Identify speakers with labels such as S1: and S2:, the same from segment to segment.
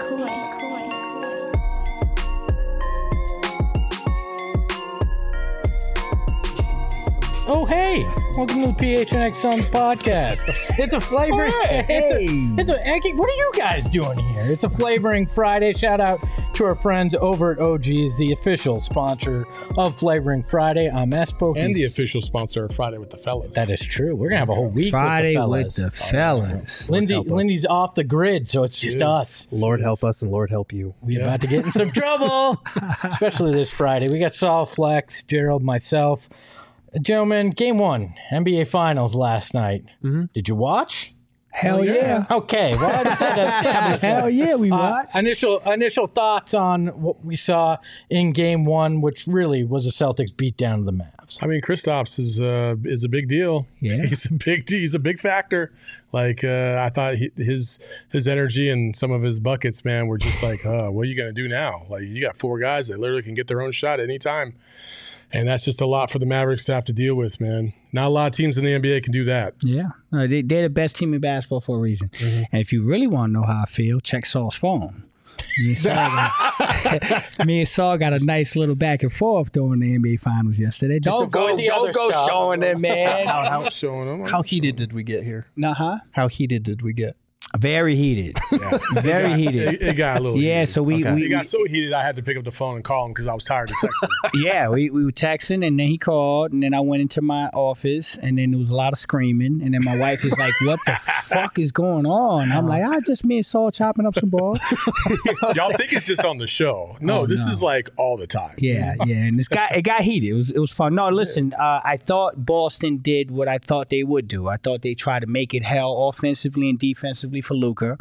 S1: Oh, hey! Welcome to the PHNX Suns podcast. It's a flavoring. What are you guys doing here? It's a flavoring Friday. Shout out to our friends over at OG's, the official sponsor of Flavoring Friday. I'm Espo.
S2: And the official sponsor of Friday with the Fellas.
S1: That is true. We're gonna have a whole week
S3: Friday
S1: with the fellas. Lindy's off the grid, so it's just us.
S4: Lord help us and Lord help you.
S1: We're about to get in some trouble, especially this Friday. We got Saul, Flex, Gerald, myself. Gentlemen, game one, NBA Finals last night. Mm-hmm. Did you watch?
S3: Hell yeah.
S1: Okay. Well,
S3: hell yeah, we watched.
S1: Initial thoughts on what we saw in game one, which really was a Celtics beatdown of the Mavs.
S2: I mean, Kristaps is a big deal.
S3: Yeah.
S2: He's a big factor. Like I thought his energy and some of his buckets, man, were just like, what are you gonna do now? Like you got four guys that literally can get their own shot at any time. And that's just a lot for the Mavericks to have to deal with, man. Not a lot of teams in the NBA can do that.
S3: Yeah. They're the best team in basketball for a reason. Mm-hmm. And if you really want to know how I feel, check Saul's phone. Me and Saul got a nice little back and forth during the NBA Finals yesterday. Don't go showing them, man.
S4: How heated did we get here? How heated did we get?
S3: Very heated. Yeah. Very heated.
S2: It got a little heated.
S3: So
S2: it got so heated I had to pick up the phone and call him because I was tired of texting.
S3: Yeah, we were texting, and then he called, and then I went into my office, and then there was a lot of screaming, and then my wife is like, what the fuck is going on? I'm like, just me and Saul chopping up some balls.
S2: Y'all think it's just on the show. No, this is like all the time.
S3: Yeah, and it got heated. It was fun. No, listen, I thought Boston did what I thought they would do. I thought they tried to make it hell offensively and defensively for Luka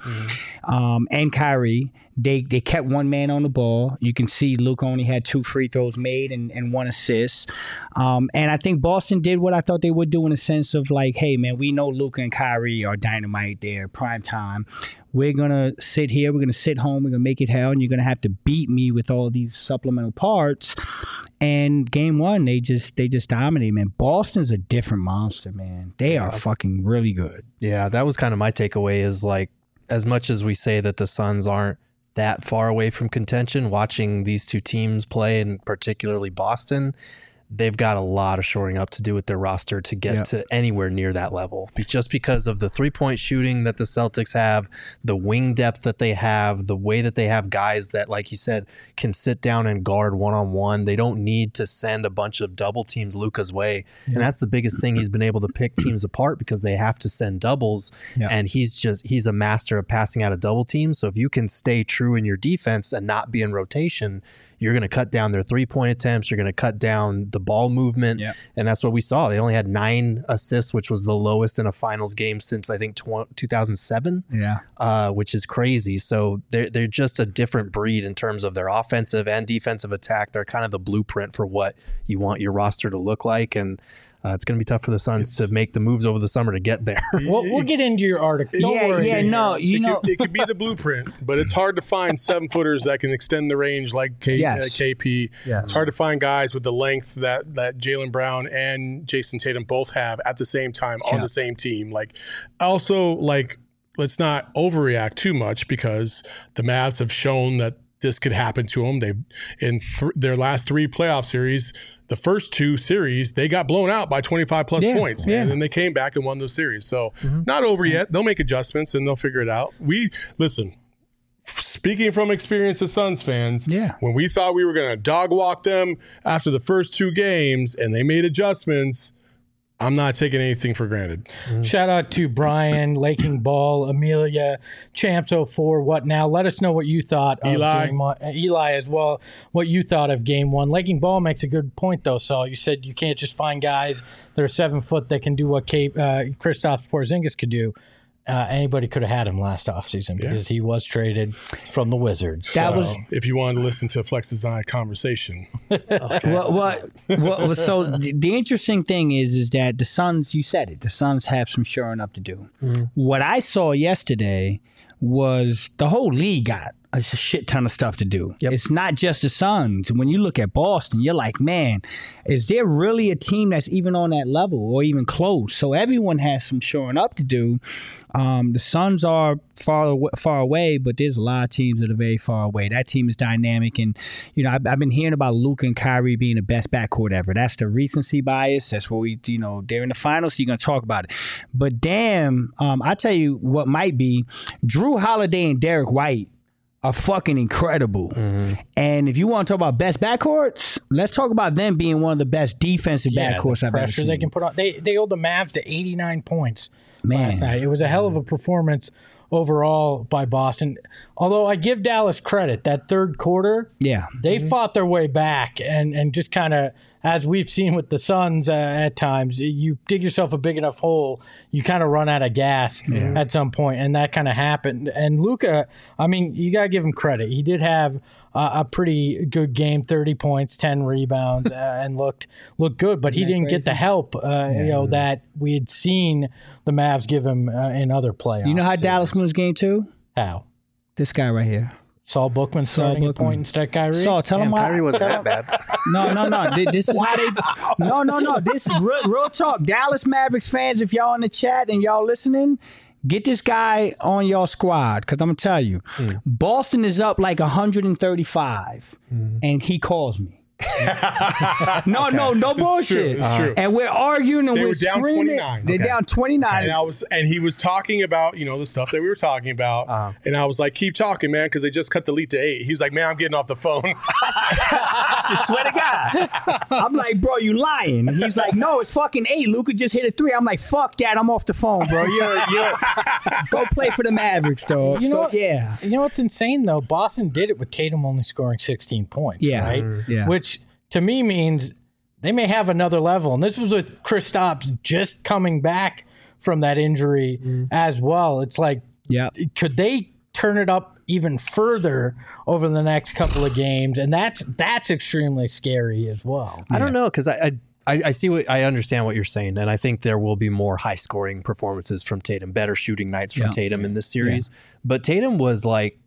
S3: and Kyrie. They kept one man on the ball. You can see Luka only had 2 free throws made and 1 assist. And I think Boston did what I thought they would do in a sense of like, hey, man, we know Luka and Kyrie are dynamite there, prime time. We're going to sit here. We're going to sit home. We're going to make it hell. And you're going to have to beat me with all these supplemental parts. And game one, they just dominated, man. Boston's a different monster, man. They are fucking really good.
S4: Yeah, that was kind of my takeaway is like, as much as we say that the Suns aren't that far away from contention, watching these two teams play, and particularly Boston, they've got a lot of shoring up to do with their roster to get to anywhere near that level. Just because of the three-point shooting that the Celtics have, the wing depth that they have, the way that they have guys that, like you said, can sit down and guard one-on-one. They don't need to send a bunch of double teams Luka's way. And that's the biggest thing. He's been able to pick teams apart because they have to send doubles. And he's a master of passing out of double teams. So if you can stay true in your defense and not be in rotation, you're going to cut down their three-point attempts. You're going to cut down the ball movement. And that's what we saw. They only had 9 assists, which was the lowest in a finals game since, I think, 2007, which is crazy. So they're just a different breed in terms of their offensive and defensive attack. They're kind of the blueprint for what you want your roster to look like. And it's going to be tough for the Suns to make the moves over the summer to get there.
S1: We'll get into your article. Don't worry.
S2: It could be the blueprint, but it's hard to find 7-footers that can extend the range like KP. It's hard to find guys with the length that Jaylen Brown and Jason Tatum both have at the same time on the same team. Let's not overreact too much because the Mavs have shown that this could happen to them. They've in their last 3 playoff series, the first 2 series, they got blown out by 25 plus points. And then they came back and won those series. So not over yet. They'll make adjustments and they'll figure it out. Speaking from experience as Suns fans, when we thought we were going to dog walk them after the first 2 games and they made adjustments, I'm not taking anything for granted.
S1: Shout out to Brian, Laking Ball, Amelia, Champs04, What Now? Let us know what you thought of Game 1. Eli as well, what you thought of Game 1. Laking Ball makes a good point, though, Saul. You said you can't just find guys that are 7 foot that can do what Kristaps Porzingis could do. Anybody could have had him last offseason because he was traded from the Wizards.
S2: If you wanted to listen to Flex's and I conversation.
S3: So the interesting thing is that the Suns, you said it, the Suns have some shoring up to do. What I saw yesterday was the whole league got a shit ton of stuff to do.
S4: Yep.
S3: It's not just the Suns. When you look at Boston, you're like, man, is there really a team that's even on that level or even close? So everyone has some showing up to do. The Suns are far away, but there's a lot of teams that are very far away. That team is dynamic, and I've been hearing about Luka and Kyrie being the best backcourt ever. That's the recency bias. That's what they're in the finals, so you're gonna talk about it. But damn, I tell you what might be Drew Holiday and Derek White are fucking incredible. Mm-hmm. And if you want to talk about best backcourts, let's talk about them being one of the best defensive backcourts I've ever seen.
S1: They can put on. They held the Mavs to 89 points last night. It was a hell of a performance overall by Boston. Although I give Dallas credit, that third quarter, they fought their way back and just kind of, as we've seen with the Suns at times, you dig yourself a big enough hole, you kind of run out of gas at some point, and that kind of happened. And Luka, I mean, you got to give him credit. He did have a pretty good game, 30 points, 10 rebounds, and looked good, but he didn't get the help that we had seen the Mavs give him in other playoffs.
S3: You know how Dallas wins game 2?
S1: How?
S3: This guy right here.
S1: Saul Bookman starting a point instead of Kyrie.
S3: Saul, tell him why.
S4: Kyrie wasn't that bad.
S3: No. This is how they. No. This is real talk. Dallas Mavericks fans, if y'all in the chat and y'all listening, get this guy on your squad, because I'm gonna tell you, Boston is up like 135, and he calls me. No bullshit.
S2: It's true.
S3: And we're arguing and
S2: they
S3: we're
S2: were down
S3: screaming.
S2: 29.
S3: They're down 29.
S2: And he was talking about the stuff that we were talking about, and I was like, keep talking, man, because they just cut the lead to 8. He's like, man, I'm getting off the phone.
S3: I swear to God. I'm like, bro, you lying? He's like, no, it's fucking 8. Luka just hit a 3. I'm like, fuck that. I'm off the phone, bro. You're go play for the Mavericks, dog. You know
S1: what's insane though? Boston did it with Tatum only scoring 16 points. Right?
S3: Yeah.
S1: Which to me means they may have another level. And this was with Kristaps just coming back from that injury as well. It's like, could they turn it up even further over the next couple of games? And that's extremely scary as well.
S4: I don't know, because I see I understand what you're saying, and I think there will be more high scoring performances from Tatum, better shooting nights from Tatum in this series. But Tatum was like,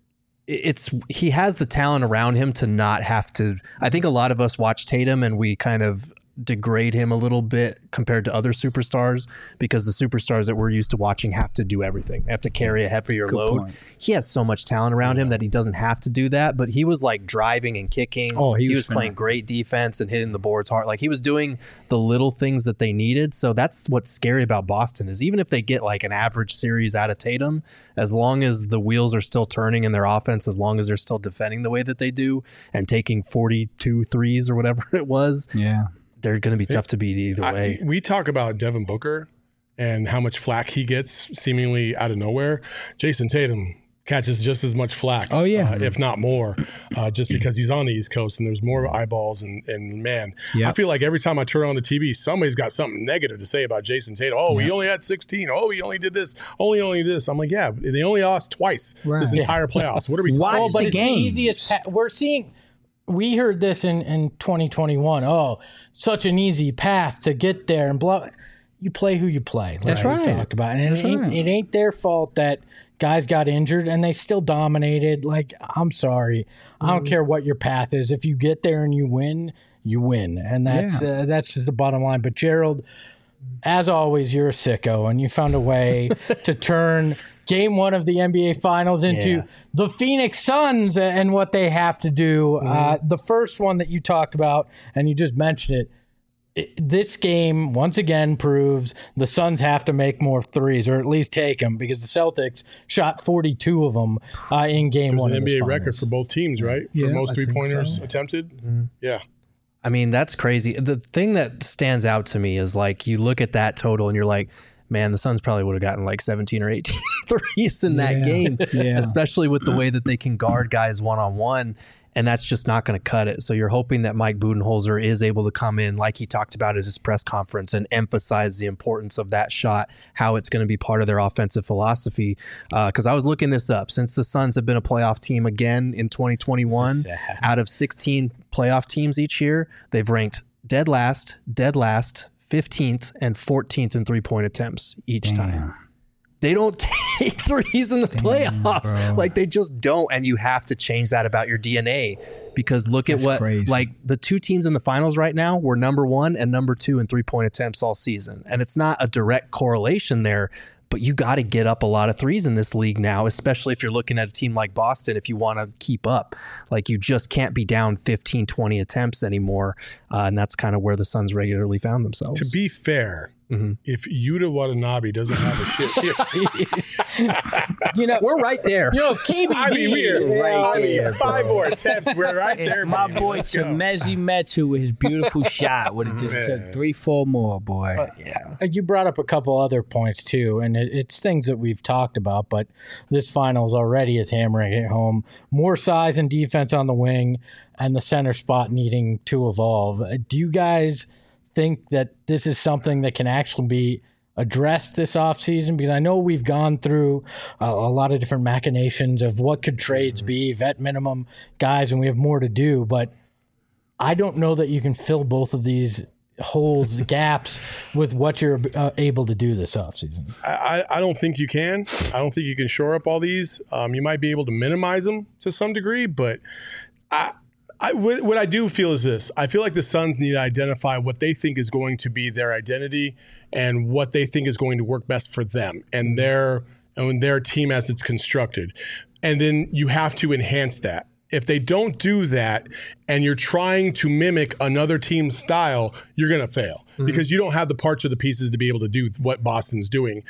S4: he has the talent around him to not have to. I think a lot of us watch Tatum and we kind of degrade him a little bit compared to other superstars, because the superstars that we're used to watching have to do everything. They have to carry a heavier load. Point. He has so much talent around him that he doesn't have to do that, but he was like driving and kicking. He was playing great defense and hitting the boards hard. Like, he was doing the little things that they needed. So that's what's scary about Boston, is even if they get like an average series out of Tatum, as long as the wheels are still turning in their offense, as long as they're still defending the way that they do and taking 42 threes or whatever it was, they're going to be tough to beat either way.
S2: We talk about Devin Booker and how much flack he gets seemingly out of nowhere. Jason Tatum catches just as much flack, if not more, just because he's on the East Coast and there's more eyeballs. And man, I feel like every time I turn on the TV, somebody's got something negative to say about Jason Tatum. He only had 16. He only did this. Only this. I'm like, they only lost twice this entire playoffs. What are we talking about?
S1: But it's the easiest. We're seeing. We heard this in 2021. Oh, such an easy path to get there and blah. You play who you play.
S3: That's right.
S1: We talked about it. And it ain't their fault that guys got injured and they still dominated. Like, I'm sorry. I don't care what your path is. If you get there and you win, you win. And that's just the bottom line. But Gerald, as always, you're a sicko, and you found a way to turn Game 1 of the NBA Finals into the Phoenix Suns and what they have to do. The first one that you talked about, and you just mentioned it, this game once again proves the Suns have to make more threes, or at least take them, because the Celtics shot 42 of them in Game 1.
S2: It was an NBA record for both teams, right? For most three-pointers attempted? Yeah.
S4: I mean, that's crazy. The thing that stands out to me is, like, you look at that total and you're like, man, the Suns probably would have gotten like 17 or 18 threes in that game, especially with the way that they can guard guys one-on-one, and that's just not going to cut it. So you're hoping that Mike Budenholzer is able to come in, like he talked about at his press conference, and emphasize the importance of that shot, how it's going to be part of their offensive philosophy. Because I was looking this up. Since the Suns have been a playoff team again in 2021, out of 16 playoff teams each year, they've ranked dead last, 15th, and 14th in three-point attempts each time. They don't take threes in the playoffs. Like, they just don't. And you have to change that about your DNA, because look at what, crazy. Like, the two teams in the finals right now were number 1 and number 2 in 3-point attempts all season. And it's not a direct correlation there, but you got to get up a lot of threes in this league now, especially if you're looking at a team like Boston, if you want to keep up. Like, you just can't be down 15, 20 attempts anymore. And that's kind of where the Suns regularly found themselves.
S2: To be fair, if Yuta Watanabe doesn't have a shit,
S4: we're right there.
S1: If KBD,
S2: we're right there. 5 more attempts, we're right there.
S3: My boy Chimezie Metu with his beautiful shot would have just took 3-4 more, boy.
S1: You brought up a couple other points too, and it's things that we've talked about, but this finals already is hammering it home. More size and defense on the wing, and the center spot needing to evolve. Do you guys think that this is something that can actually be addressed this offseason? Because I know we've gone through a lot of different machinations of what could trades be, vet minimum guys, and we have more to do, but I don't know that you can fill both of these holes, gaps with what you're able to do this offseason.
S2: I don't think you can. I don't think you can shore up all these. You might be able to minimize them to some degree, but what I do feel is this. I feel like the Suns need to identify what they think is going to be their identity and what they think is going to work best for them and their team as it's constructed. And then you have to enhance that. If they don't do that and you're trying to mimic another team's style, you're going to fail because you don't have the parts or the pieces to be able to do what Boston's doing.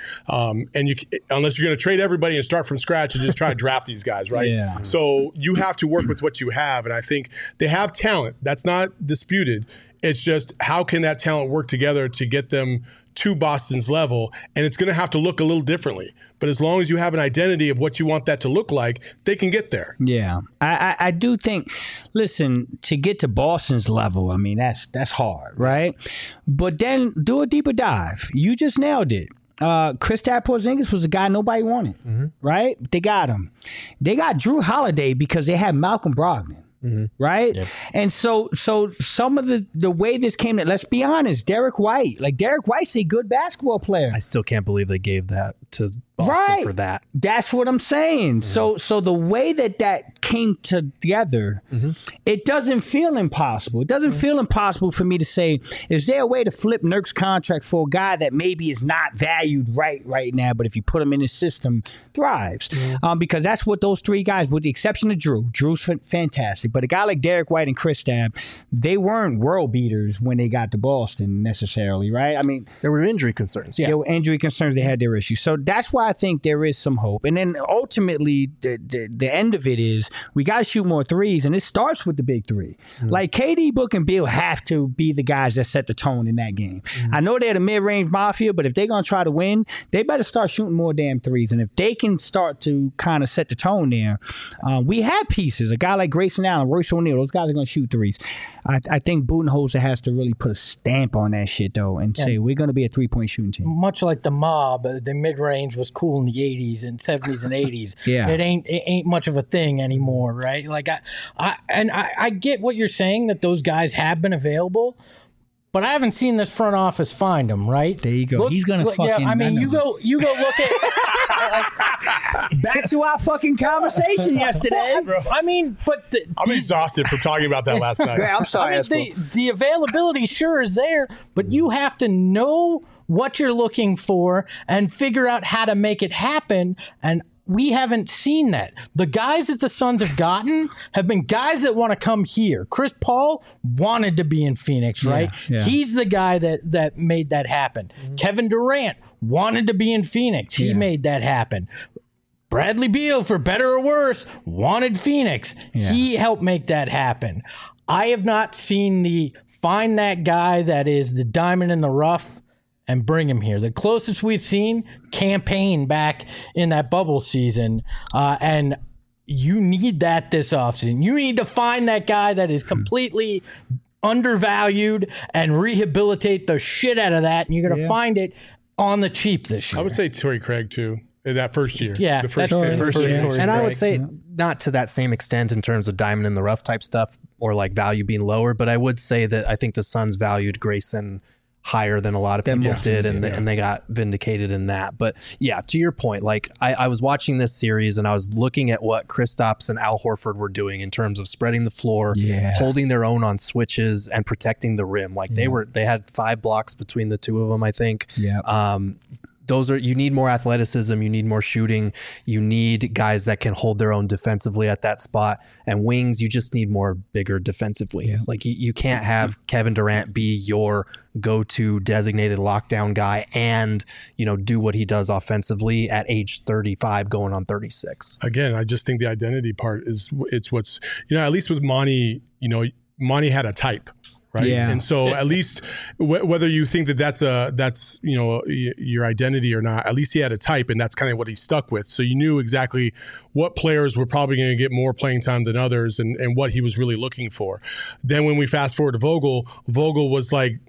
S2: Unless you're going to trade everybody and start from scratch and just try to draft these guys, right?
S3: Yeah.
S2: So you have to work with what you have. And I think they have talent. That's not disputed. It's just how can that talent work together to get them to Boston's level, and it's going to have to look a little differently. But as long as you have an identity of what you want that to look like, they can get there.
S3: Yeah, I do think. Listen, to get to Boston's level, I mean that's hard, right? But then do a deeper dive. You just nailed it. Kristaps Porzingis was a guy nobody wanted, right? They got him. They got Drew Holiday because they had Malcolm Brogdon. Right? Yep. And so some of the way this came to, let's be honest, Derek White's a good basketball player.
S4: I still can't believe they gave that to Boston for that.
S3: That's what I'm saying. So the way that came together, it doesn't feel impossible. It doesn't feel impossible for me to say, is there a way to flip Nurk's contract for a guy that maybe is not valued right now, but if you put him in his system, thrives? Because that's what those three guys, with the exception of Drew's fantastic, but a guy like Derek White and Kristaps, they weren't world beaters when they got to Boston necessarily, right? I mean,
S4: there were injury concerns. Yeah,
S3: there were injury concerns. They had their issues. So that's why I think there is some hope. And then ultimately, the end of it is we got to shoot more threes, and it starts with the big three. Like KD, Book, and Beal have to be the guys that set the tone in that game. I know they're the mid-range mafia, but if they're going to try to win, they better start shooting more damn threes. And if they can start to kind of set the tone there, we have pieces. A guy like Grayson Allen, Royce O'Neal, those guys are going to shoot threes. I think Budenholzer has to really put a stamp on that shit, though, and say we're going to be a three-point shooting team.
S1: Much like the Mob, the mid-range was cool in the 80s and 70s and 80s. It ain't much of a thing anymore, right? Like I get what you're saying, that those guys have been available, but I haven't seen this front office find them, right?
S3: There you go. He's going to fucking... Yeah,
S1: I mean, you go look at...
S3: Back to our fucking conversation yesterday.
S1: I mean, but...
S2: I'm exhausted from talking about that last night.
S3: I'm sorry.
S1: I mean, the availability sure is there, but you have to know what you're looking for and figure out how to make it happen, and we haven't seen that. The guys that the Suns have gotten have been guys that want to come here. Chris Paul wanted to be in Phoenix, right?
S3: Yeah.
S1: He's the guy that made that happen. Kevin Durant wanted to be in Phoenix. He made that happen. Bradley Beal, for better or worse, wanted Phoenix. He helped make that happen. I have not seen find that guy that is the diamond in the rough and bring him here. The closest we've seen, campaign back in that bubble season. And you need that this offseason. You need to find that guy that is completely undervalued and rehabilitate the shit out of that. And you're going to find it on the cheap this year.
S2: I would say Torrey Craig, too. In that first year.
S1: Yeah.
S2: The first year.
S4: And I would say not to that same extent in terms of diamond in the rough type stuff or like value being lower, but I would say that I think the Suns valued Grayson higher than a lot of people did, and they got vindicated in that. But yeah, to your point, like I was watching this series and I was looking at what Kristaps and Al Horford were doing in terms of spreading the floor, holding their own on switches, and protecting the rim. Like they had 5 blocks between the two of them, I think. You need more athleticism, you need more shooting, you need guys that can hold their own defensively at that spot, and wings, you just need more bigger defensive wings. Like you can't have Kevin Durant be your go-to designated lockdown guy and, do what he does offensively at age 35 going on 36.
S2: Again, I just think the identity part it's what's, at least with Monty, Monty had a type. Right. Yeah. And so at least whether you think that's your identity or not, at least he had a type, and that's kind of what he stuck with. So you knew exactly what players were probably going to get more playing time than others and what he was really looking for. Then when we fast forward to Vogel was like,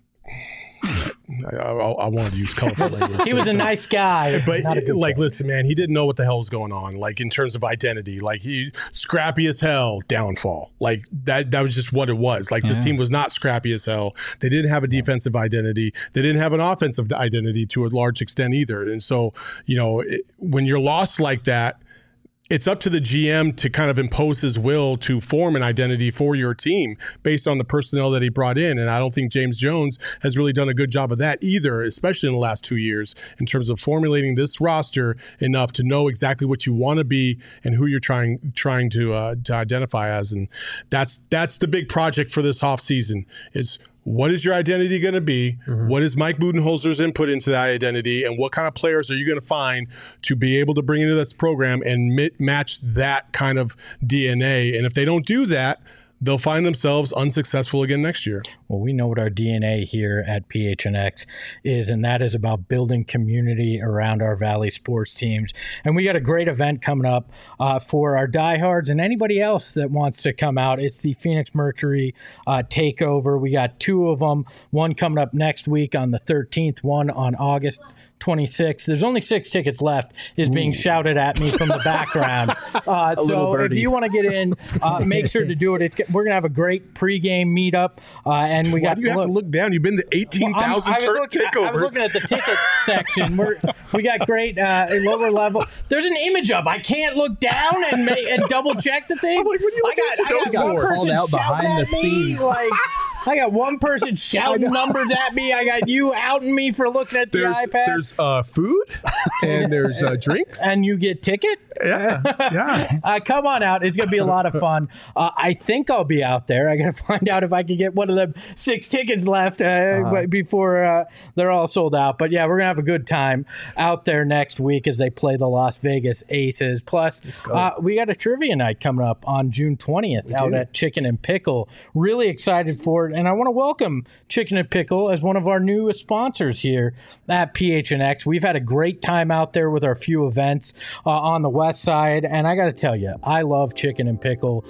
S2: I wanted to use colorful language.
S1: He was a nice guy,
S2: but listen, man, he didn't know what the hell was going on. Like in terms of identity, like he scrappy as hell, downfall. Like that was just what it was. Like this team was not scrappy as hell. They didn't have a defensive identity. They didn't have an offensive identity to a large extent either. And so, when you're lost like that, it's up to the GM to kind of impose his will to form an identity for your team based on the personnel that he brought in. And I don't think James Jones has really done a good job of that either, especially in the last 2 years, in terms of formulating this roster enough to know exactly what you want to be and who you're trying to identify as. And that's the big project for this offseason is, what is your identity going to be? Mm-hmm. What is Mike Budenholzer's input into that identity? And what kind of players are you going to find to be able to bring into this program and match that kind of DNA? And if they don't do that, they'll find themselves unsuccessful again next year.
S1: Well, we know what our DNA here at PHNX is, and that is about building community around our Valley sports teams. And we got a great event coming up for our diehards and anybody else that wants to come out. It's the Phoenix Mercury Takeover. We got 2 of them, one coming up next week on the 13th, one on August 26th. There's only 6 tickets left, is being shouted at me from the background. So if you want to get in, make sure to do it. We're going to have a great pregame meetup. And we got.
S2: Why do you have to look down? You've been to 18,000 takeovers.
S1: I was looking at the ticket section. We got great lower level. There's an image up. I can't look down and double check the thing.
S2: I'm like, what are you
S1: I got one person
S3: out behind the scenes.
S1: I got one person shouting numbers at me. I got you outing me for looking at the iPad.
S2: There's food and there's drinks.
S1: And you get ticket?
S2: Yeah.
S1: Come on out. It's going to be a lot of fun. I think I'll be out there. I got to find out if I can get one of them 6 tickets left before they're all sold out. But yeah, we're going to have a good time out there next week as they play the Las Vegas Aces. Plus, we got a trivia night coming up on June 20th out at Chicken and Pickle. Really excited for it. And I want to welcome Chicken and Pickle as one of our newest sponsors here at PHNX. We've had a great time out there with our few events on the west side. And I got to tell you, I love Chicken and Pickle.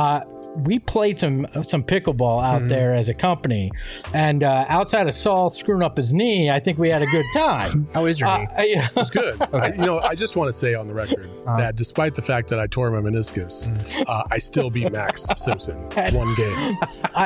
S1: We played some pickleball out there as a company, and outside of Saul screwing up his knee, I think we had a good time.
S4: How is your knee?
S2: It was good. Okay. I just want to say on the record that despite the fact that I tore my meniscus, I still beat Max Simpson 1 game.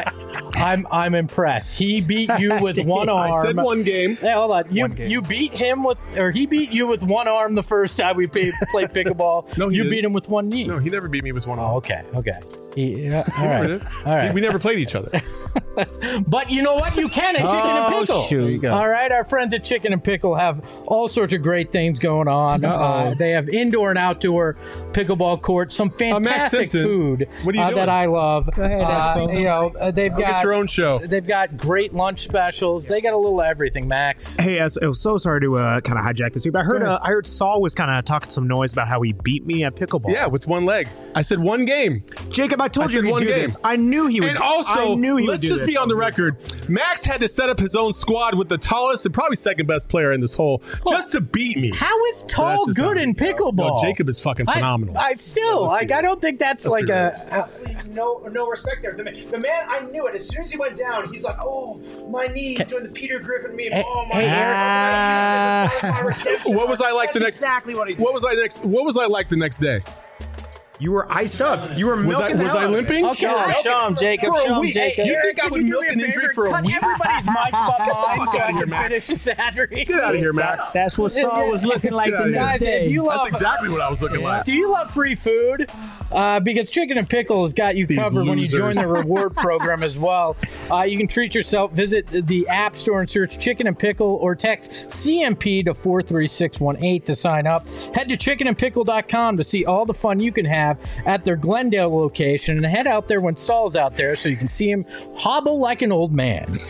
S1: I'm impressed. He beat you with one arm.
S2: I said 1 game.
S1: Hey, hold on. You beat him he beat you with one arm the first time we played pickleball.
S2: No,
S1: you beat him with one knee.
S2: No, he never beat me with one arm.
S1: Oh, okay. All right.
S2: We never played each other.
S1: But you know what? You can at Chicken and Pickle.
S3: Shoot.
S1: All right. Our friends at Chicken and Pickle have all sorts of great things going on. They have indoor and outdoor pickleball courts, some fantastic food
S2: what are you doing?
S1: that I love.
S3: Go ahead,
S1: they've got
S2: get your own show.
S1: They've got great lunch specials. They got a little everything, Max.
S5: Hey, I was so sorry to kind of hijack this here, but I heard Saul was kind of talking some noise about how he beat me at pickleball.
S2: Yeah, with 1 leg. I said 1 game.
S5: Jacob, I told you he'd do this. I knew he would.
S2: And also, let's just be on the record. Max had to set up his own squad with the tallest and probably second best player in this hole just to beat me.
S1: How is tall good in pickleball?
S2: No, Jacob is fucking phenomenal.
S1: I don't think that's like
S5: absolutely no respect there. The man, I knew it. As soon as he went down, he's like, "Oh, my knee." He's doing the Peter Griffin meme. Oh my God!
S2: What was I like the next?
S5: Exactly what he did.
S2: What was I like the next day?
S5: You were iced up. You were milking
S2: Was I limping?
S1: Okay, show him, Jacob. Show him, Jacob.
S2: You think I would milk an injury for a week?
S1: Everybody's mic but mine so I can
S2: Max.
S1: finish the Saturday.
S2: Get out of here, Max.
S3: That's what Saul was looking like the next day.
S1: If you love,
S2: That's exactly what I was looking like.
S1: do you love free food? Because Chicken and Pickle has got you covered when you join the reward program as well. You can treat yourself. Visit the App Store and search Chicken and Pickle or text CMP to 43618 to sign up. Head to chickenandpickle.com to see all the fun you can have at their Glendale location, and head out there when Saul's out there so you can see him hobble like an old man.
S4: We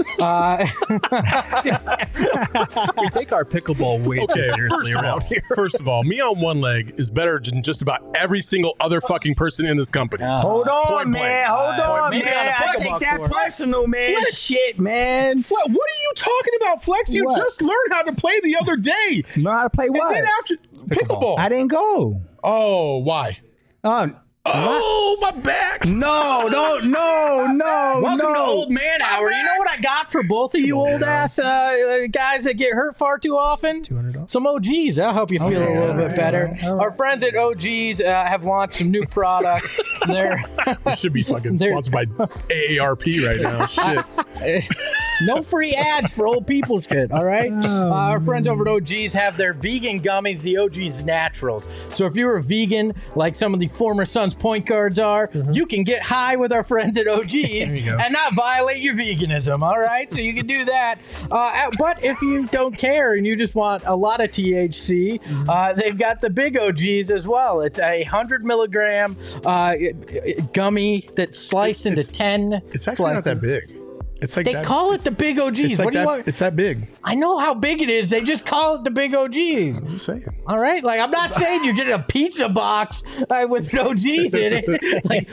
S4: take our pickleball way too seriously around here.
S2: First of all, me on one leg is better than just about every single other fucking person in this company.
S3: Hold on,
S2: Point
S3: man.
S2: blank.
S3: Hold on,
S1: Maybe
S3: man.
S1: on a
S3: I
S1: pickleball
S3: take that
S1: court.
S3: personal, man.
S2: Flex.
S3: Shit, man.
S2: What are you talking about, Flex? You
S3: What?
S2: just learned how to play the other day.
S3: Know how to play what?
S2: And then after pickleball.
S3: I didn't go.
S2: Oh, why? Oh, my back.
S3: No.
S1: Welcome to Old Man Hour. You know what I got for both of you old ass guys that get hurt far too often? $200. Some OGs. That'll help you feel a little bit better. Our friends at OGs have launched some new products. They're
S2: We should be fucking sponsored by AARP right now. Shit.
S1: no free ads for old people shit, all right? Our friends over at OGs have their vegan gummies, the OGs Naturals. So if you're a vegan, like some of the former Suns point guards are, you can get high with our friends at OGs and not violate your veganism, all right? So you can do that. But if you don't care and you just want a lot of THC, they've got the big OGs as well. It's a 100 milligram gummy that's sliced into 10
S2: It's actually
S1: slices.
S2: not that big. It's like
S1: They
S2: that,
S1: call it the big OGs.
S2: it's like
S1: What do you
S2: that,
S1: want?
S2: It's that big.
S1: I know how big it is. They just call it the big OGs.
S2: I'm just saying.
S1: All right, like I'm not saying you're getting a pizza box with OGs in it. Like,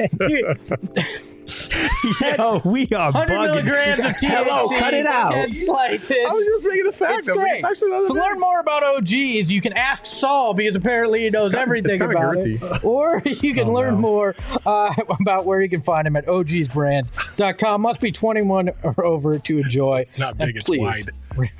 S3: Yo, we are
S1: 100
S3: bugging.
S1: milligrams of THC.
S3: Hello, cut it out.
S1: 10 slices.
S2: I was just making the fact.
S1: It's great. To learn more about OGs, you can ask Saul because apparently he knows everything about it. Or you can learn more about where you can find him at ogsbrands.com. Must be 21 or over to enjoy.
S2: It's not big,
S1: And
S2: it's
S1: please,
S2: wide.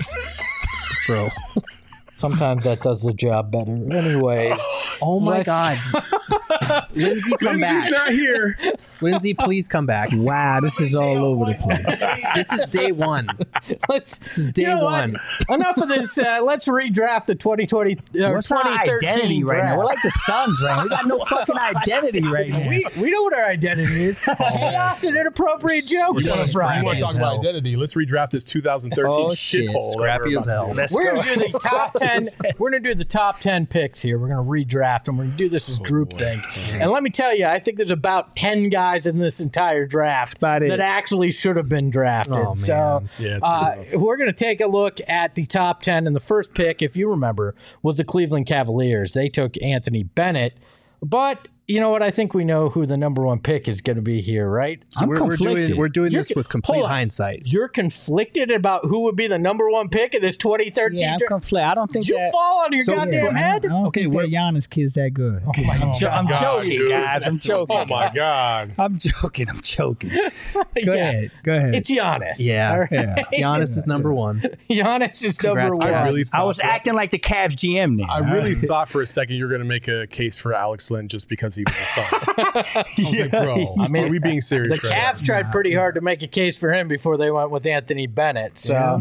S1: Bro. Sometimes that does the job better. Anyways.
S4: Oh my God. Lindsay, come
S2: Lindsay's
S4: back.
S2: not here.
S4: Lindsay, please come back.
S3: Wow, this is all over the place.
S4: This is day one.
S1: This
S4: is day one.
S1: Enough of this. Let's redraft the 2020
S3: What's our
S1: 2013
S3: identity right now?
S1: draft.
S3: We're like the Suns right now. We got no fucking identity right now.
S1: We know what our identity is. Chaos and inappropriate jokes on a
S2: You
S1: Friday.
S2: want to talk about identity? Let's redraft this 2013
S3: shit.
S2: shithole.
S4: Scrappy as hell.
S1: We're gonna do the top 10. We're gonna do the top 10 picks here. We're gonna redraft them. We're gonna do this as groupthink. And let me tell you, I think there's about 10 guys in this entire draft
S3: about it.
S1: that actually should have been drafted.
S4: Oh, man.
S1: So
S2: Yeah, it's pretty rough.
S1: we're gonna take a look at the top 10. And the first pick, if you remember, was the Cleveland Cavaliers. They took Anthony Bennett, but. You know what? I think we know who the number one pick is going to be here, right?
S3: I'm
S4: We're
S3: conflicted.
S4: doing this with complete
S1: hold on.
S4: hindsight.
S1: You're conflicted about who would be the number one pick in this 2013
S3: Yeah, I'm
S1: draft.
S3: conflicted. I don't think
S1: You
S3: that.
S1: fall on your goddamn head.
S3: I don't think that Giannis kid's that good. I'm
S2: God,
S3: joking,
S2: dude.
S3: guys. I'm joking.
S2: Oh my God.
S3: I'm joking. Go
S1: Yeah.
S3: ahead. Go ahead.
S1: It's Giannis.
S4: Yeah.
S1: All right?
S3: Yeah.
S4: Giannis is number one.
S1: Giannis is number
S4: Congrats,
S1: one.
S4: guys.
S2: I really
S3: I was acting like the Cavs GM then.
S2: I really thought for a second you were going to make a case for Alex Lynn just because he was a Son. I was like, bro,
S1: I mean,
S2: are we being serious
S1: The
S2: right
S1: Cavs tried pretty hard to make a case for him before they went with Anthony Bennett. So